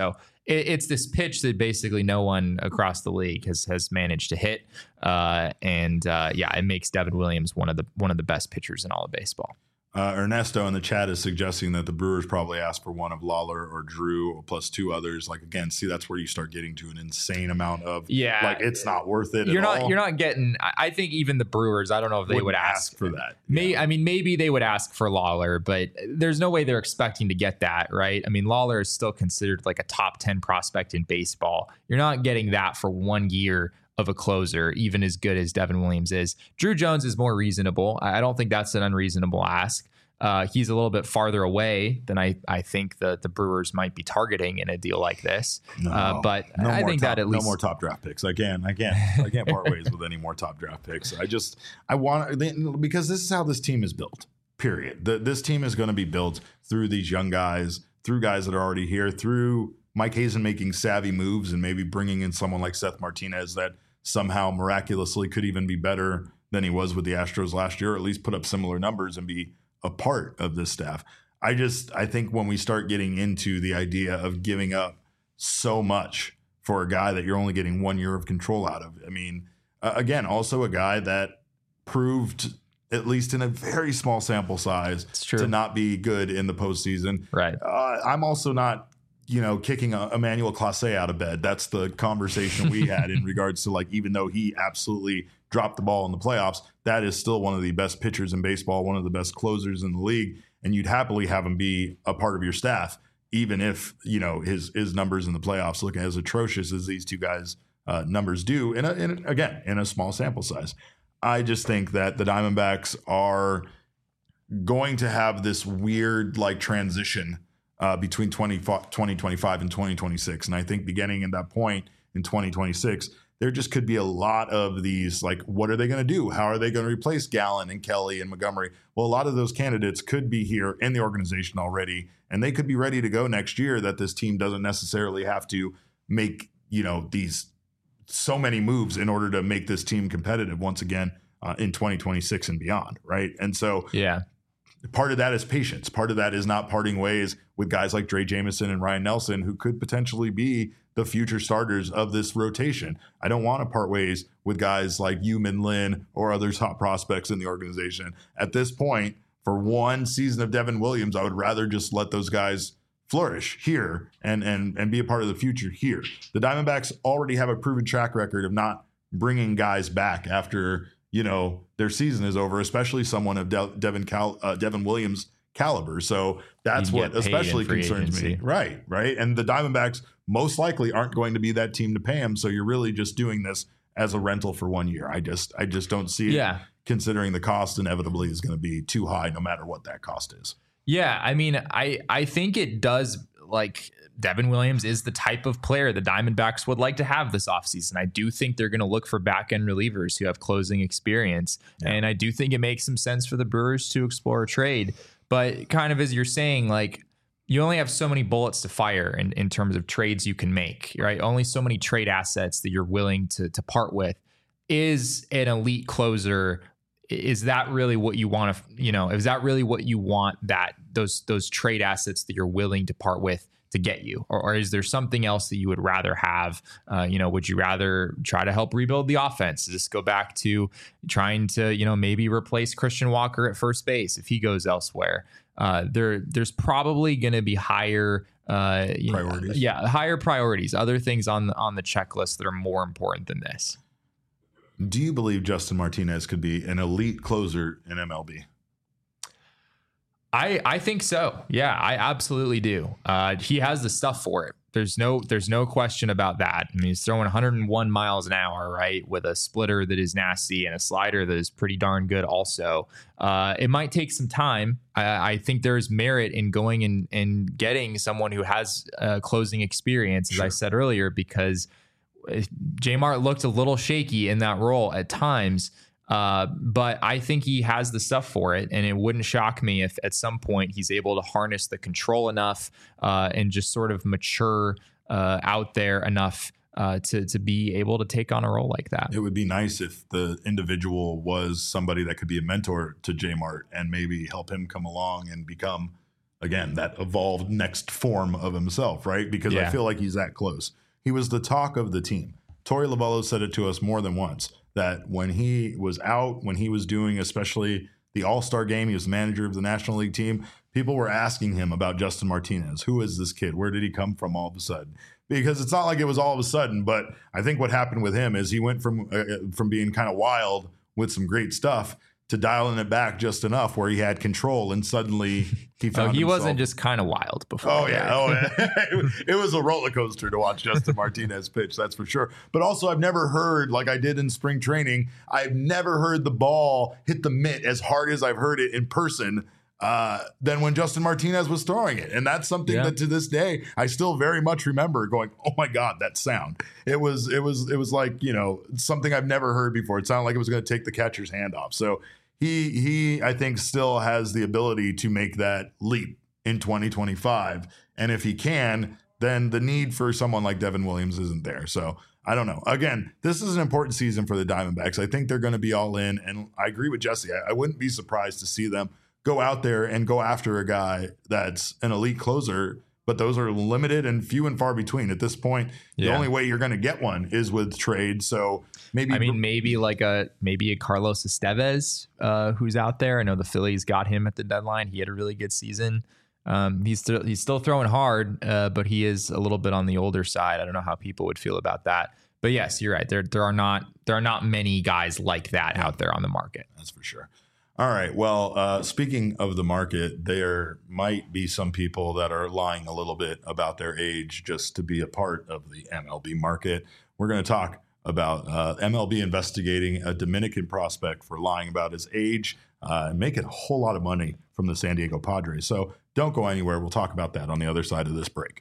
it, it's this pitch that basically no one across the league has has managed to hit. Uh, and uh, yeah, it makes Devin Williams one of the one of the best pitchers in all of baseball.
Uh, Ernesto in the chat is suggesting that the Brewers probably asked for one of Lawler or Drew plus two others. Like, again, see, that's where you start getting to an insane amount of,
yeah,
like, it's not worth it.
You're
at
not,
all.
you're not getting, I think even the Brewers, I don't know if they
Wouldn't
would ask,
ask for that.
May,
Yeah.
I mean, maybe they would ask for Lawler, but there's no way they're expecting to get that, right? I mean, Lawler is still considered like a top ten prospect in baseball. You're not getting that for one year of a closer, even as good as Devin Williams is. Drew Jones is more reasonable. I don't think that's an unreasonable ask. Uh, he's a little bit farther away than I, I think the, the Brewers might be targeting in a deal like this.
No,
uh, but
no
I
more
think
top,
that at least
no more top draft picks. I can't, I can't, I can't part ways with any more top draft picks. I just, I want, because this is how this team is built, period. The, this team is going to be built through these young guys, through guys that are already here, through Mike Hazen making savvy moves and maybe bringing in someone like Seth Martinez that somehow miraculously could even be better than he was with the Astros last year, or at least put up similar numbers and be a part of this staff. I just, I think when we start getting into the idea of giving up so much for a guy that you're only getting one year of control out of, I mean, uh, again, also a guy that proved, at least in a very small sample size, to not be good in the postseason.
Right.
Uh, I'm also not, you know, kicking a, Emmanuel Clase out of bed. That's the conversation we had in regards to, like, even though he absolutely dropped the ball in the playoffs, that is still one of the best pitchers in baseball, one of the best closers in the league, and you'd happily have him be a part of your staff, even if, you know, his his numbers in the playoffs look as atrocious as these two guys' uh, numbers do, in, a, in a, again, in a small sample size. I just think that the Diamondbacks are going to have this weird, like, transition uh, between twenty twenty-five and twenty twenty-six, and I think beginning at that point in twenty twenty-six, there just could be a lot of these, like, what are they going to do? How are they going to replace Gallen and Kelly and Montgomery? Well, a lot of those candidates could be here in the organization already, and they could be ready to go next year, that this team doesn't necessarily have to make, you know, these so many moves in order to make this team competitive once again uh, in twenty twenty-six and beyond, right? And so
yeah,
part of that is patience. Part of that is not parting ways with guys like Dre Jameson and Ryan Nelson, who could potentially be the future starters of this rotation. I don't want to part ways with guys like Yu Min Lin or other top prospects in the organization. At this point, for one season of Devin Williams, I would rather just let those guys flourish here and and and be a part of the future here. The Diamondbacks already have a proven track record of not bringing guys back after, you know, their season is over, especially someone of De- Devin Cal- uh, Devin Williams caliber. So that's what especially concerns
agency.
me. Right, right. And the Diamondbacks most likely aren't going to be that team to pay him. So you're really just doing this as a rental for one year. I just I just don't see it,
yeah.
considering the cost inevitably is going to be too high no matter what that cost is.
Yeah, I mean, I I think it does, like, Devin Williams is the type of player the Diamondbacks would like to have this offseason. I do think they're going to look for back-end relievers who have closing experience. Yeah. And I do think it makes some sense for the Brewers to explore a trade. But kind of as you're saying, like, you only have so many bullets to fire in, in terms of trades you can make, right? Only so many trade assets that you're willing to, to part with. Is an elite closer, is that really what you want to, you know, is that really what you want, that those those trade assets that you're willing to part with to get you? Or, or is there something else that you would rather have? Uh, you know, would you rather try to help rebuild the offense? Just go back to trying to, you know, maybe replace Christian Walker at first base if he goes elsewhere? Uh, there, there's probably going to be higher uh,
priorities.
Know, yeah, higher priorities, other things on the, on the checklist that are more important than this.
Do you believe Justin Martinez could be an elite closer in M L B?
I, I think so. Yeah, I absolutely do. Uh, he has the stuff for it. There's no there's no question about that. I mean, he's throwing one hundred one miles an hour, right, with a splitter that is nasty and a slider that is pretty darn good also. Uh, it might take some time. I, I think there's merit in going and, and getting someone who has uh, closing experience, as sure. I said earlier, because J-Mart looked a little shaky in that role at times. Uh, but I think he has the stuff for it, and it wouldn't shock me if at some point he's able to harness the control enough uh, and just sort of mature uh, out there enough uh, to to be able to take on a role like that.
It would be nice if the individual was somebody that could be a mentor to J-Mart and maybe help him come along and become again, that evolved next form of himself, right? Because
Yeah.
I feel like he's that close. He was the talk of the team. Torey Lovullo said it to us more than once, that when he was out, when he was doing especially the All-Star game, he was manager of the National League team, people were asking him about Justin Martinez. Who is this kid? Where did he come from all of a sudden? Because it's not like it was all of a sudden, but I think what happened with him is he went from uh, from being kind of wild with some great stuff to dialing it back just enough where he had control, and suddenly he found
Oh, he
himself.
wasn't just kind of wild before.
Oh yeah,
right?
oh yeah. It was a roller coaster to watch Justin Martinez pitch, that's for sure. But also, I've never heard, like I did in spring training, I've never heard the ball hit the mitt as hard as I've heard it in person uh, than when Justin Martinez was throwing it, and that's something
Yeah.
that to this day I still very much remember. Going, oh my God, that sound! It was, it was, it was like, you know, something I've never heard before. It sounded like it was going to take the catcher's hand off. So. He, he, I think, still has the ability to make that leap in twenty twenty-five. And if he can, then the need for someone like Devin Williams isn't there. So I don't know. Again, this is an important season for the Diamondbacks. I think they're going to be all in. And I agree with Jesse. I, I wouldn't be surprised to see them go out there and go after a guy that's an elite closer. But those are limited and few and far between at this point. The
Yeah.
only way you're going to get one is with trade. So maybe
I mean, maybe like a maybe a Carlos Estevez uh, who's out there. I know the Phillies got him at the deadline. He had a really good season. Um, he's still he's still throwing hard, uh, but he is a little bit on the older side. I don't know how people would feel about that. But yes, you're right. There there are not there are not many guys like that out there on the market.
That's for sure. All right. Well, uh, speaking of the market, there might be some people that are lying a little bit about their age just to be a part of the M L B market. We're going to talk about uh, M L B investigating a Dominican prospect for lying about his age uh, and making a whole lot of money from the San Diego Padres. So don't go anywhere. We'll talk about that on the other side of this break.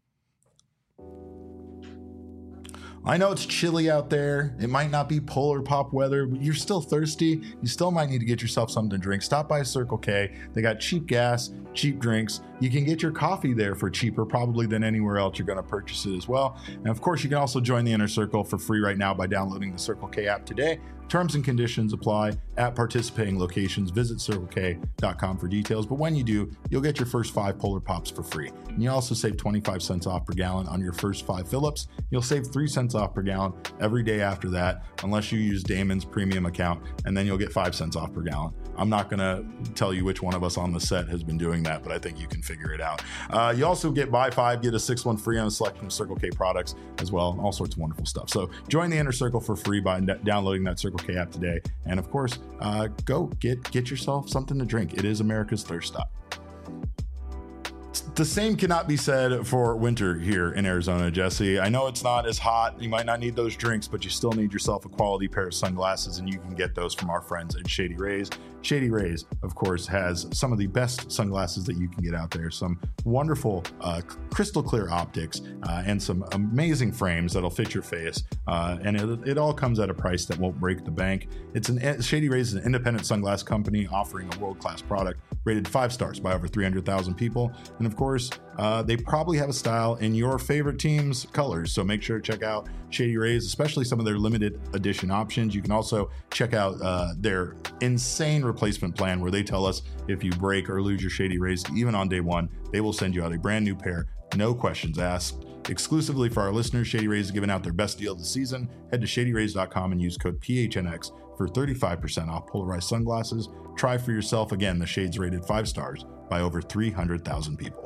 I know it's chilly out there. It might not be polar pop weather, but you're still thirsty. You still might need to get yourself something to drink. Stop by Circle K. They got cheap gas, cheap drinks. You can get your coffee there for cheaper probably than anywhere else you're going to purchase it as well. And of course, you can also join the Inner Circle for free right now by downloading the Circle K app today. Terms and conditions apply at participating locations. Visit circle k dot com for details. But when you do, you'll get your first five Polar Pops for free. And you also save twenty-five cents off per gallon on your first five fill-ups. You'll save three cents off per gallon every day after that, unless you use Damon's premium account, and then you'll get five cents off per gallon. I'm not going to tell you which one of us on the set has been doing that, but I think you can figure it out. Uh, you also get buy five, get a six one free on a selection of Circle K products as well, all sorts of wonderful stuff. So join the Inner Circle for free by d- downloading that Circle K app today. And of course, uh, go get, get yourself something to drink. It is America's thirst stop. The same cannot be said for winter here in Arizona, Jesse. I know it's not as hot. You might not need those drinks, but you still need yourself a quality pair of sunglasses, and you can get those from our friends at Shady Rays. Shady Rays, of course, has some of the best sunglasses that you can get out there. Some wonderful uh, crystal clear optics uh, and some amazing frames that'll fit your face. Uh, and it, it all comes at a price that won't break the bank. It's an Shady Rays is an independent sunglass company offering a world-class product rated five stars by over three hundred thousand people. And of course, uh, they probably have a style in your favorite team's colors. So make sure to check out Shady Rays, especially some of their limited edition options. You can also check out uh, their insane replacement plan where they tell us if you break or lose your Shady Rays, even on day one, they will send you out a brand new pair, no questions asked. Exclusively for our listeners, Shady Rays is giving out their best deal of the season. Head to shady rays dot com and use code P H N X for thirty-five percent off polarized sunglasses. Try for yourself. Again, the shades rated five stars by over three hundred thousand people.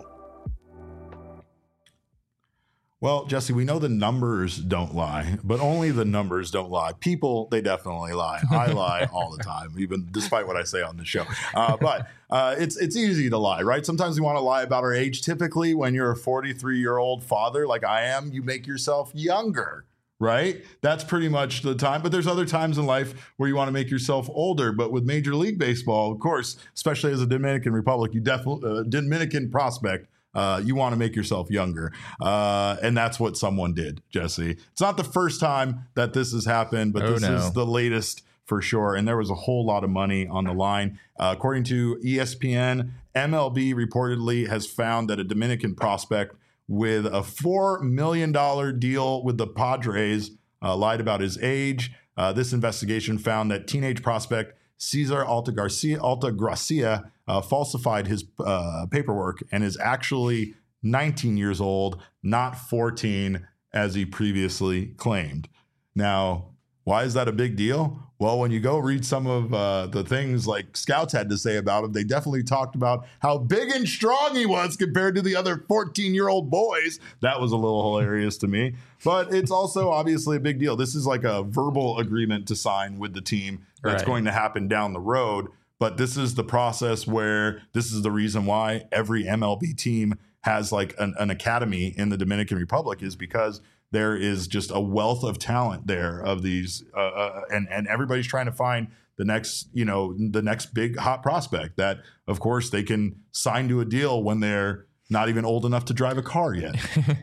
Well, Jesse, we know the numbers don't lie, but only the numbers don't lie. People, they definitely lie. I lie all the time, even despite what I say on the show. Uh, but uh, it's it's easy to lie, right? Sometimes we want to lie about our age. Typically, when you're a forty-three-year-old father like I am, you make yourself younger, right? That's pretty much the time. But there's other times in life where you want to make yourself older. But with Major League Baseball, of course, especially as a Dominican Republic, you definitely uh, Dominican prospect. Uh, you want to make yourself younger. Uh, and that's what someone did, Jesse. It's not the first time that this has happened, but
Oh,
this
no.
is the latest for sure. And there was a whole lot of money on the line. Uh, according to E S P N, M L B reportedly has found that a Dominican prospect with a four million dollars deal with the Padres uh, lied about his age. Uh, this investigation found that teenage prospect Cesar Altagracia, Altagracia uh, falsified his uh, paperwork and is actually nineteen years old, not fourteen, as he previously claimed. Now, why is that a big deal? Well, when you go read some of uh, the things like scouts had to say about him, they definitely talked about how big and strong he was compared to the other fourteen-year-old boys. That was a little hilarious to me. But it's also obviously a big deal. This is like a verbal agreement to sign with the team that's
Right.
going to happen down the road. But this is the process where this is the reason why every M L B team has like an, an academy in the Dominican Republic, is because there is just a wealth of talent there of these, uh, uh, and and everybody's trying to find the next, you know, the next big hot prospect that, of course, they can sign to a deal when they're not even old enough to drive a car yet.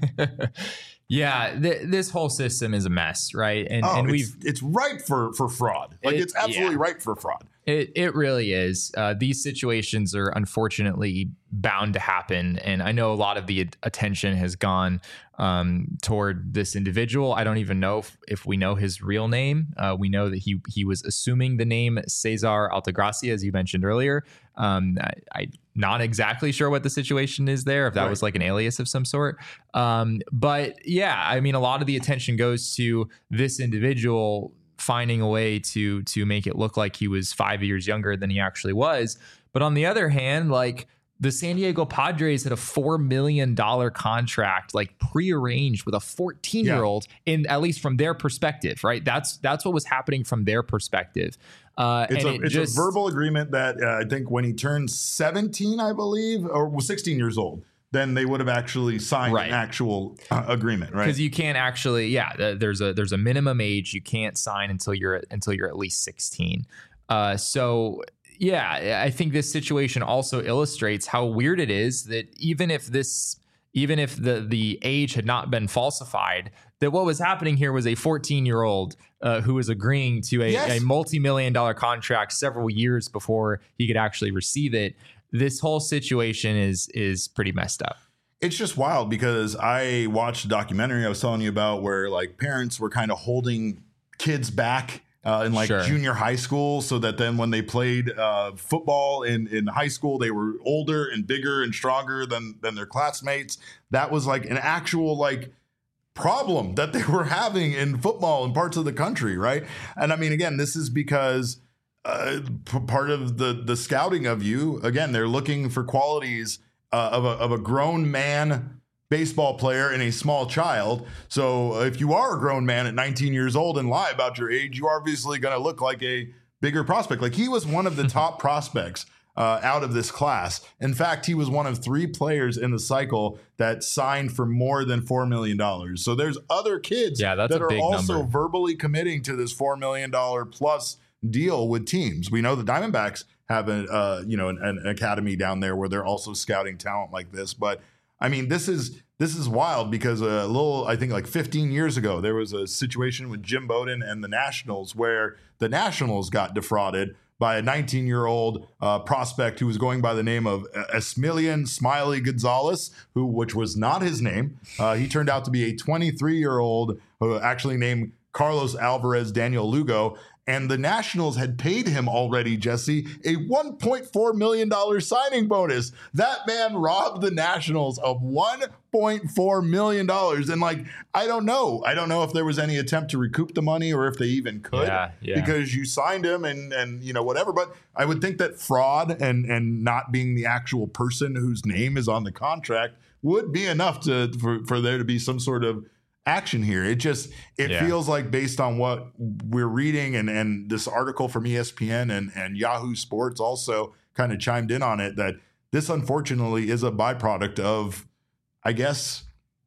Yeah, th- this whole system is a mess, right? And
Oh,
and
it's,
we've
it's ripe for for fraud. Like
It-
it's absolutely
yeah.
ripe for fraud.
It it really is. Uh, these situations are unfortunately bound to happen, and I know a lot of the attention has gone um, toward this individual. I don't even know if, if we know his real name. Uh, we know that he he was assuming the name Cesar Altagracia, as you mentioned earlier. Um, I, I'm not exactly sure what the situation is there, if that
Right.
was like an alias of some sort. Um, but yeah, I mean, a lot of the attention goes to this individual finding a way to to make it look like he was five years younger than he actually was. But on the other hand, like the San Diego Padres had a four million dollars contract, like prearranged with a fourteen year old in, at least from their perspective, right? That's, that's what was happening from their perspective. Uh,
It's,
and
a,
it
it's
just,
a verbal agreement that uh, I think when he turned seventeen, I believe, or was sixteen years old, then they would have actually signed
Right.
an actual uh, agreement, right?
because you can't actually, yeah, th- there's a there's a minimum age you can't sign until you're until you're at least sixteen. Uh, so yeah, I think this situation also illustrates how weird it is that even if this, even if the the age had not been falsified, that what was happening here was a fourteen year old uh, who was agreeing to a,
Yes.
a multi million dollar contract several years before he could actually receive it. This whole situation is is pretty messed up.
It's just wild because I watched a documentary I was telling you about where like parents were kind of holding kids back uh, in like
Sure.
junior high school so that then when they played uh, football in, in high school, they were older and bigger and stronger than, than their classmates. That was like an actual like problem that they were having in football in parts of the country. Right. And I mean, again, this is because uh, p- part of the, the scouting of you, again, they're looking for qualities uh, of, a, of a grown man baseball player and a small child. So if you are a grown man at nineteen years old and lie about your age, you're obviously going to look like a bigger prospect. Like he was one of the top prospects uh, out of this class. In fact, he was one of three players in the cycle that signed for more than four million dollars. So there's other kids
Yeah, that's
that
a
are
big
also
number.
verbally committing to this four million dollars plus deal with teams. We know the Diamondbacks have a, uh, you know, an, an academy down there where they're also scouting talent like this. But I mean, this is this is wild because a little, I think like fifteen years ago, there was a situation with Jim Bowden and the Nationals where the Nationals got defrauded by a nineteen-year-old uh, prospect who was going by the name of Esmilian Smiley Gonzalez, who which was not his name. Uh, he turned out to be a twenty-three-year-old who actually named Carlos Alvarez Daniel Lugo. And the Nationals had paid him already, Jesse, a one point four million dollars signing bonus. That man robbed the Nationals of one point four million dollars. And like, I don't know. I don't know if there was any attempt to recoup the money or if they even could
Yeah, yeah.
because you signed him and, and, you know, whatever. But I would think that fraud and, and not being the actual person whose name is on the contract would be enough to for, for there to be some sort of action here. It just it
Yeah.
feels like based on what we're reading and and this article from E S P N and and Yahoo Sports also kind of chimed in on it that this unfortunately is a byproduct of, I guess,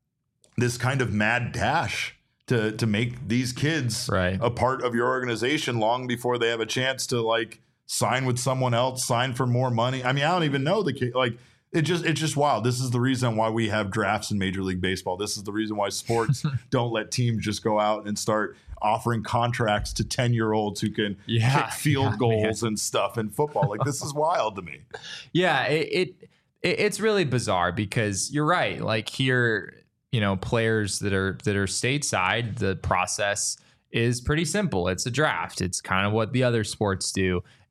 this kind of mad dash to to make these kids
Right.
a part of your organization long before they have a chance to like sign with someone else, sign for more money. I mean, I don't even know the kid like It just it's just wild. This is the reason why we have drafts in Major League Baseball. This is the reason why sports don't let teams just go out and start offering contracts to ten-year-olds who can
Yeah,
kick field
yeah,
goals and stuff in football. Like this is wild to me.
Yeah, it, it it it's really bizarre because you're right. Like here, you know, players that are that are stateside, the process is pretty simple. It's a draft. It's kind of what the other sports do.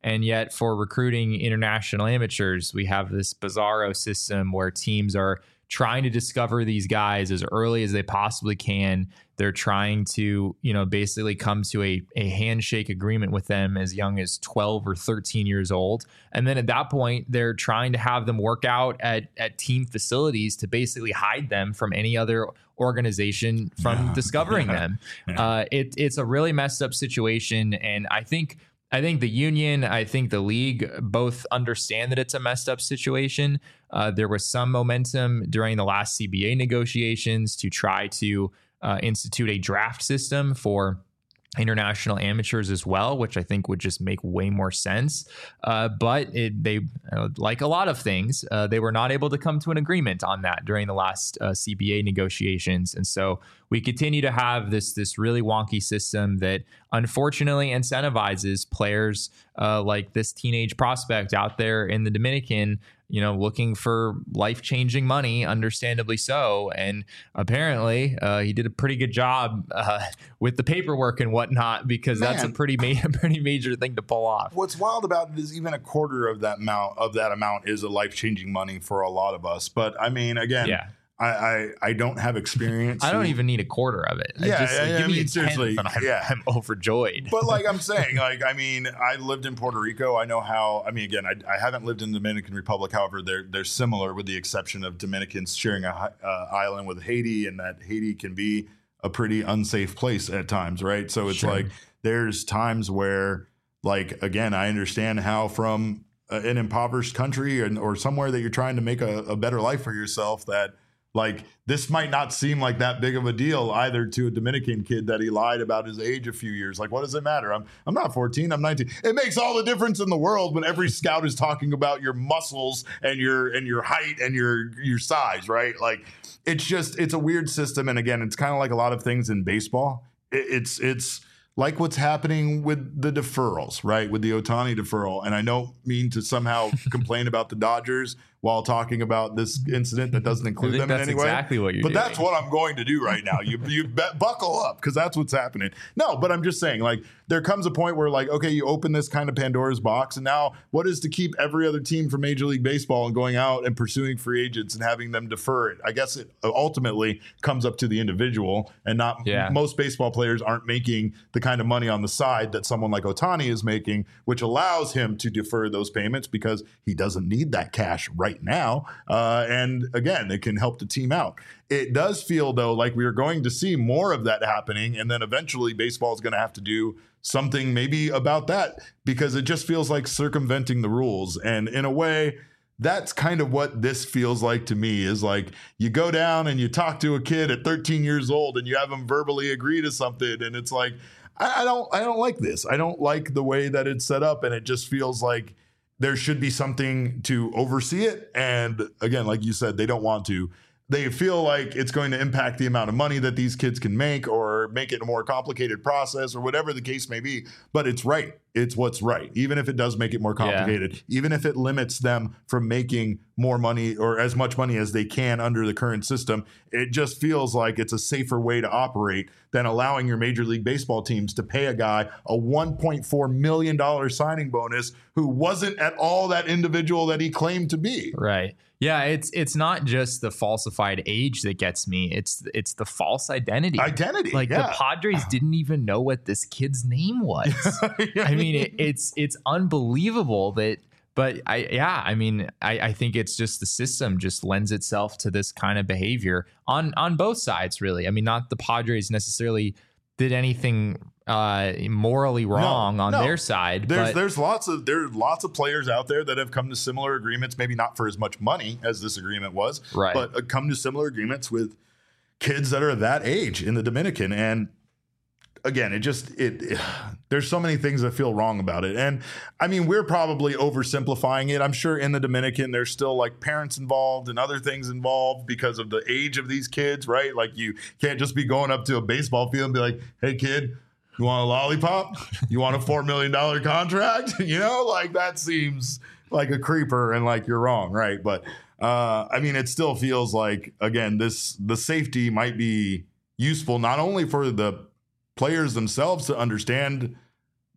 And yet for recruiting international amateurs, we have this bizarro system where teams are trying to discover these guys as early as they possibly can. They're trying to, you know, basically come to a, a handshake agreement with them as young as twelve or thirteen years old. And then at that point, they're trying to have them work out at, at team facilities to basically hide them from any other organization from yeah. discovering yeah. them. Yeah. Uh, it, it's a really messed up situation. And I think I think the union, I think the league both understand that it's a messed up situation. Uh, there was some momentum during the last C B A negotiations to try to uh, institute a draft system for international amateurs as well, which I think would just make way more sense. Uh, but it, they, uh, like a lot of things, uh, they were not able to come to an agreement on that during the last uh, C B A negotiations. And so we continue to have this, this really wonky system that unfortunately incentivizes players uh, like this teenage prospect out there in the Dominican, you know, looking for life-changing money, understandably so. And apparently uh, he did a pretty good job uh, with the paperwork and whatnot, because Man. that's a pretty, ma- pretty major thing to pull off.
What's wild about it is even a quarter of that amount of that amount is a life-changing money for a lot of us. But I mean, again,
yeah.
I, I, I don't have experience.
I don't even need a quarter of it.
Yeah,
I just, like,
I,
give
I
me
mean,
a
seriously,
tenth and I'm,
yeah.
I'm overjoyed.
But like I'm saying, like, I mean, I lived in Puerto Rico. I know how, I mean, again, I, I haven't lived in the Dominican Republic. However, they're, they're similar with the exception of Dominicans sharing a uh, island with Haiti, and that Haiti can be a pretty unsafe place at times, right? So it's sure. like there's times where, like, again, I understand how from an impoverished country or, or somewhere that you're trying to make a, a better life for yourself, that like this might not seem like that big of a deal either to a Dominican kid that he lied about his age a few years. Like, what does it matter? I'm I'm not fourteen, I'm nineteen. It makes all the difference in the world when every scout is talking about your muscles and your and your height and your your size, right? Like, it's just it's a weird system. And again, it's kind of like a lot of things in baseball. It, it's it's like what's happening with the deferrals, right? With the Ohtani deferral. And I don't mean to somehow complain about the Dodgers while talking about this incident that doesn't include them in any way.
That's exactly what you're
but
doing.
That's what I'm going to do right now. You you bet, buckle up, because that's what's happening. No, but I'm just saying, like, there comes a point where, like, okay, you open this kind of Pandora's box, and now what is to keep every other team from Major League Baseball and going out and pursuing free agents and having them defer it? I guess it ultimately comes up to the individual, and not
yeah.
most baseball players aren't making the kind of money on the side that someone like Ohtani is making, which allows him to defer those payments because he doesn't need that cash right now. Uh, and again, it can help the team out. It does feel, though, like we are going to see more of that happening. And then eventually baseball is going to have to do something maybe about that, because it just feels like circumventing the rules. And in a way, that's kind of what this feels like to me, is like you go down and you talk to a kid at thirteen years old and you have them verbally agree to something. And it's like, I, I don't I don't like this. I don't like the way that it's set up. And it just feels like there should be something to oversee it. And again, like you said, they don't want to. They feel like it's going to impact the amount of money that these kids can make, or make it a more complicated process, or whatever the case may be. But it's right. It's what's right. Even if it does make it more complicated, yeah. even if it limits them from making more money or as much money as they can under the current system, it just feels like it's a safer way to operate than allowing your Major League Baseball teams to pay a guy a one point four million dollars signing bonus who wasn't at all that individual that he claimed to be.
Right. Yeah, it's it's not just the falsified age that gets me. It's it's the false identity.
Identity.
Like
yeah.
the Padres didn't even know what this kid's name was. yeah. I mean, it, it's it's unbelievable that. But I yeah, I mean, I, I think it's just the system just lends itself to this kind of behavior on on both sides, really. I mean, not the Padres necessarily did anything uh, morally wrong no, on no. their side.
There's
but
there's lots of there's lots of players out there that have come to similar agreements, maybe not for as much money as this agreement was,
right.
but uh, come to similar agreements with kids that are that age in the Dominican. And again, it just it, it there's so many things that feel wrong about it. And I mean, we're probably oversimplifying it. I'm sure in the Dominican there's still like parents involved and other things involved because of the age of these kids, right? Like you can't just be going up to a baseball field and be like, "Hey kid, you want a lollipop? You want a four million dollars contract?" You know, like that seems like a creeper and like you're wrong, right? But uh, I mean, it still feels like, again, this the safety might be useful not only for the players themselves to understand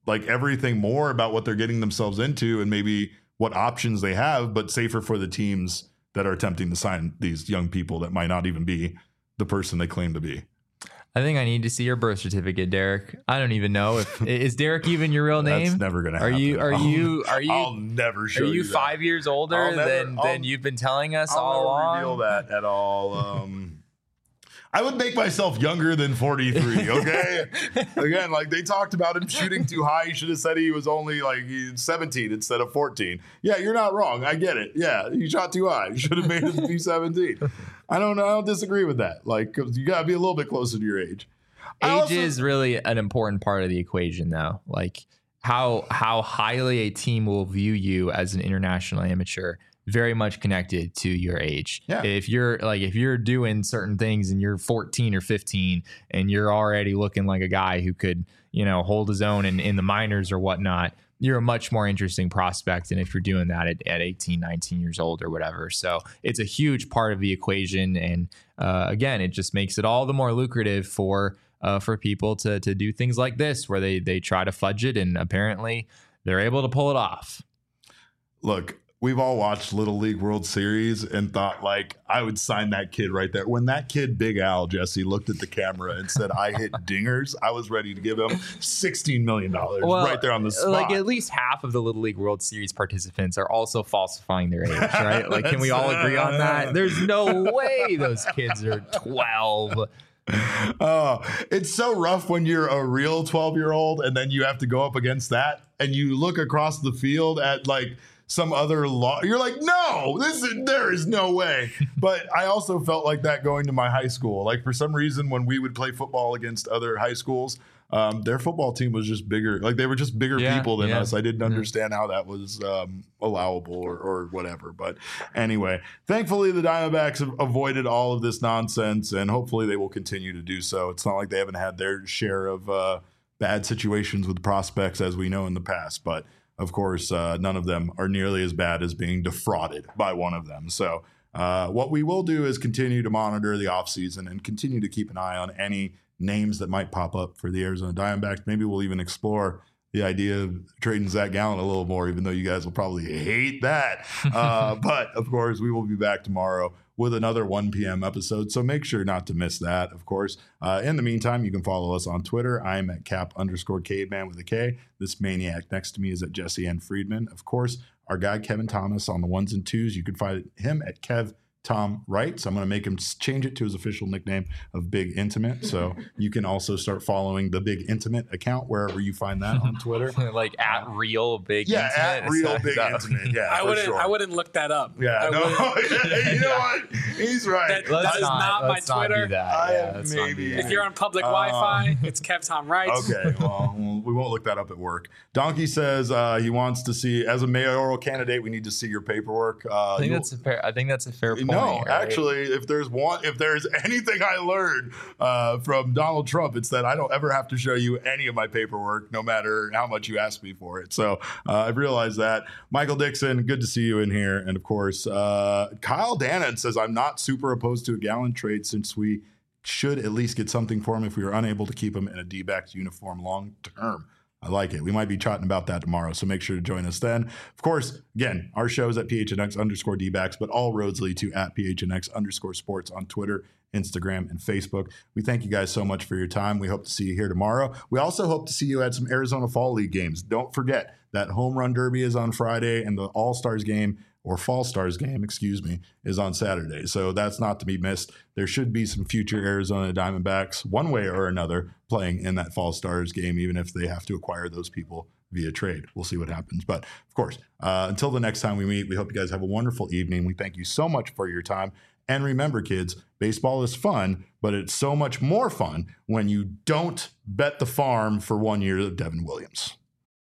like everything more about what they're getting themselves into and maybe what options they have, but safer for the teams that are attempting to sign these young people that might not even be the person they claim to be.
I think I need to see your birth certificate, Derek. I don't even know if is Derek even your real name.
That's never gonna
are
happen.
you? Are
I'll,
you? Are you?
I'll never show
Are you,
you
five
that.
years older
never,
than
I'll,
than you've been telling us
I'll
all
never
along?
reveal that at all. Um, I would make myself younger than forty-three. Okay, again, like they talked about him shooting too high. He should have said he was only like seventeen instead of fourteen. Yeah, you're not wrong. I get it. Yeah, he shot too high. You should have made him be seventeen. I don't know. I don't disagree with that. Like, you got to be a little bit closer to your age.
Age
also,
is really an important part of the equation, though. Like how how highly a team will view you as an international amateur, very much connected to your age.
Yeah.
If you're like if you're doing certain things and you're fourteen or fifteen and you're already looking like a guy who could, you know, hold his own in, in the minors or whatnot, you're a much more interesting prospect than if you're doing that at, at eighteen, nineteen years old or whatever. So it's a huge part of the equation. And uh, again, it just makes it all the more lucrative for uh, for people to to do things like this, where they they try to fudge it, and apparently they're able to pull it off.
Look, we've all watched Little League World Series and thought, like, I would sign that kid right there. When that kid, Big Al, Jesse, looked at the camera and said, I hit dingers, I was ready to give him sixteen million dollars
Well,
right there on the spot.
Like at least half of the Little League World Series participants are also falsifying their age, right? Like, can we all agree on that? There's no way those kids are twelve.
Oh, it's so rough when you're a real twelve year old and then you have to go up against that and you look across the field at like some other law. You're like, no, this is, there is no way. But I also felt like that going to my high school. Like for some reason, when we would play football against other high schools, um, their football team was just bigger. Like they were just bigger
Yeah,
people than
yeah.
us. I didn't understand how that was um, allowable or, or whatever. But anyway, thankfully the Diamondbacks have avoided all of this nonsense, and hopefully they will continue to do so. It's not like they haven't had their share of uh, bad situations with prospects, as we know in the past. But of course, uh, none of them are nearly as bad as being defrauded by one of them. So uh, what we will do is continue to monitor the offseason and continue to keep an eye on any names that might pop up for the Arizona Diamondbacks. Maybe we'll even explore the idea of trading Zach Gallen a little more, even though you guys will probably hate that. Uh, but, of course, we will be back tomorrow with another one p.m. episode, so make sure not to miss that, of course. Uh, in the meantime, you can follow us on Twitter. I'm at cap underscore caveman with a K. This maniac next to me is at Jesse N. Friedman. Of course, our guy Kevin Thomas on the ones and twos. You can find him at Kev Tom Wright. So I'm going to make him change it to his official nickname of Big Intimate. So you can also start following the Big Intimate account wherever you find that on Twitter.
Like at real Big
Yeah,
Intimate.
at real
Is
Big
that-
Intimate. Yeah,
I
for
wouldn't.
sure.
I wouldn't look that up.
Yeah,
I
no,
wouldn't.
you know what? He's right.
That-
Let's
That is not my
let's not
Twitter.
do that.
I
Yeah, let's not do
maybe-
that.
If you're on public
Uh,
Wi-Fi, it's Kev Tom Wright.
Okay, well, we won't look that up at work. Donkey says uh, he wants to see, as a mayoral candidate, we need to see your paperwork. Uh,
I think
you'll-
that's a fair. I think that's a fair point.
no,
right?
actually, if there's one, if there's anything I learned uh, from Donald Trump, it's that I don't ever have to show you any of my paperwork, no matter how much you ask me for it. So uh, I've realized that. Michael Dixon, good to see you in here, and of course, uh, Kyle Dannon says I'm not super opposed to a Gallen trade since we should at least get something for him if we were unable to keep him in a D-backs uniform long term. I like it. We might be chatting about that tomorrow, so make sure to join us then. Of course, again, our show is at P H N X underscore D-backs, but all roads lead to at P H N X underscore sports on Twitter, Instagram, and Facebook. We thank you guys so much for your time. We hope to see you here tomorrow. We also hope to see you at some Arizona Fall League games. Don't forget that Home Run Derby is on Friday, and the All-Stars game, or Fall Stars game, excuse me, is on Saturday. So that's not to be missed. There should be some future Arizona Diamondbacks, one way or another, playing in that Fall Stars game, even if they have to acquire those people via trade. We'll see what happens. But of course, uh, until the next time we meet, we hope you guys have a wonderful evening. We thank you so much for your time. And remember, kids, baseball is fun, but it's so much more fun when you don't bet the farm for one year of Devin Williams.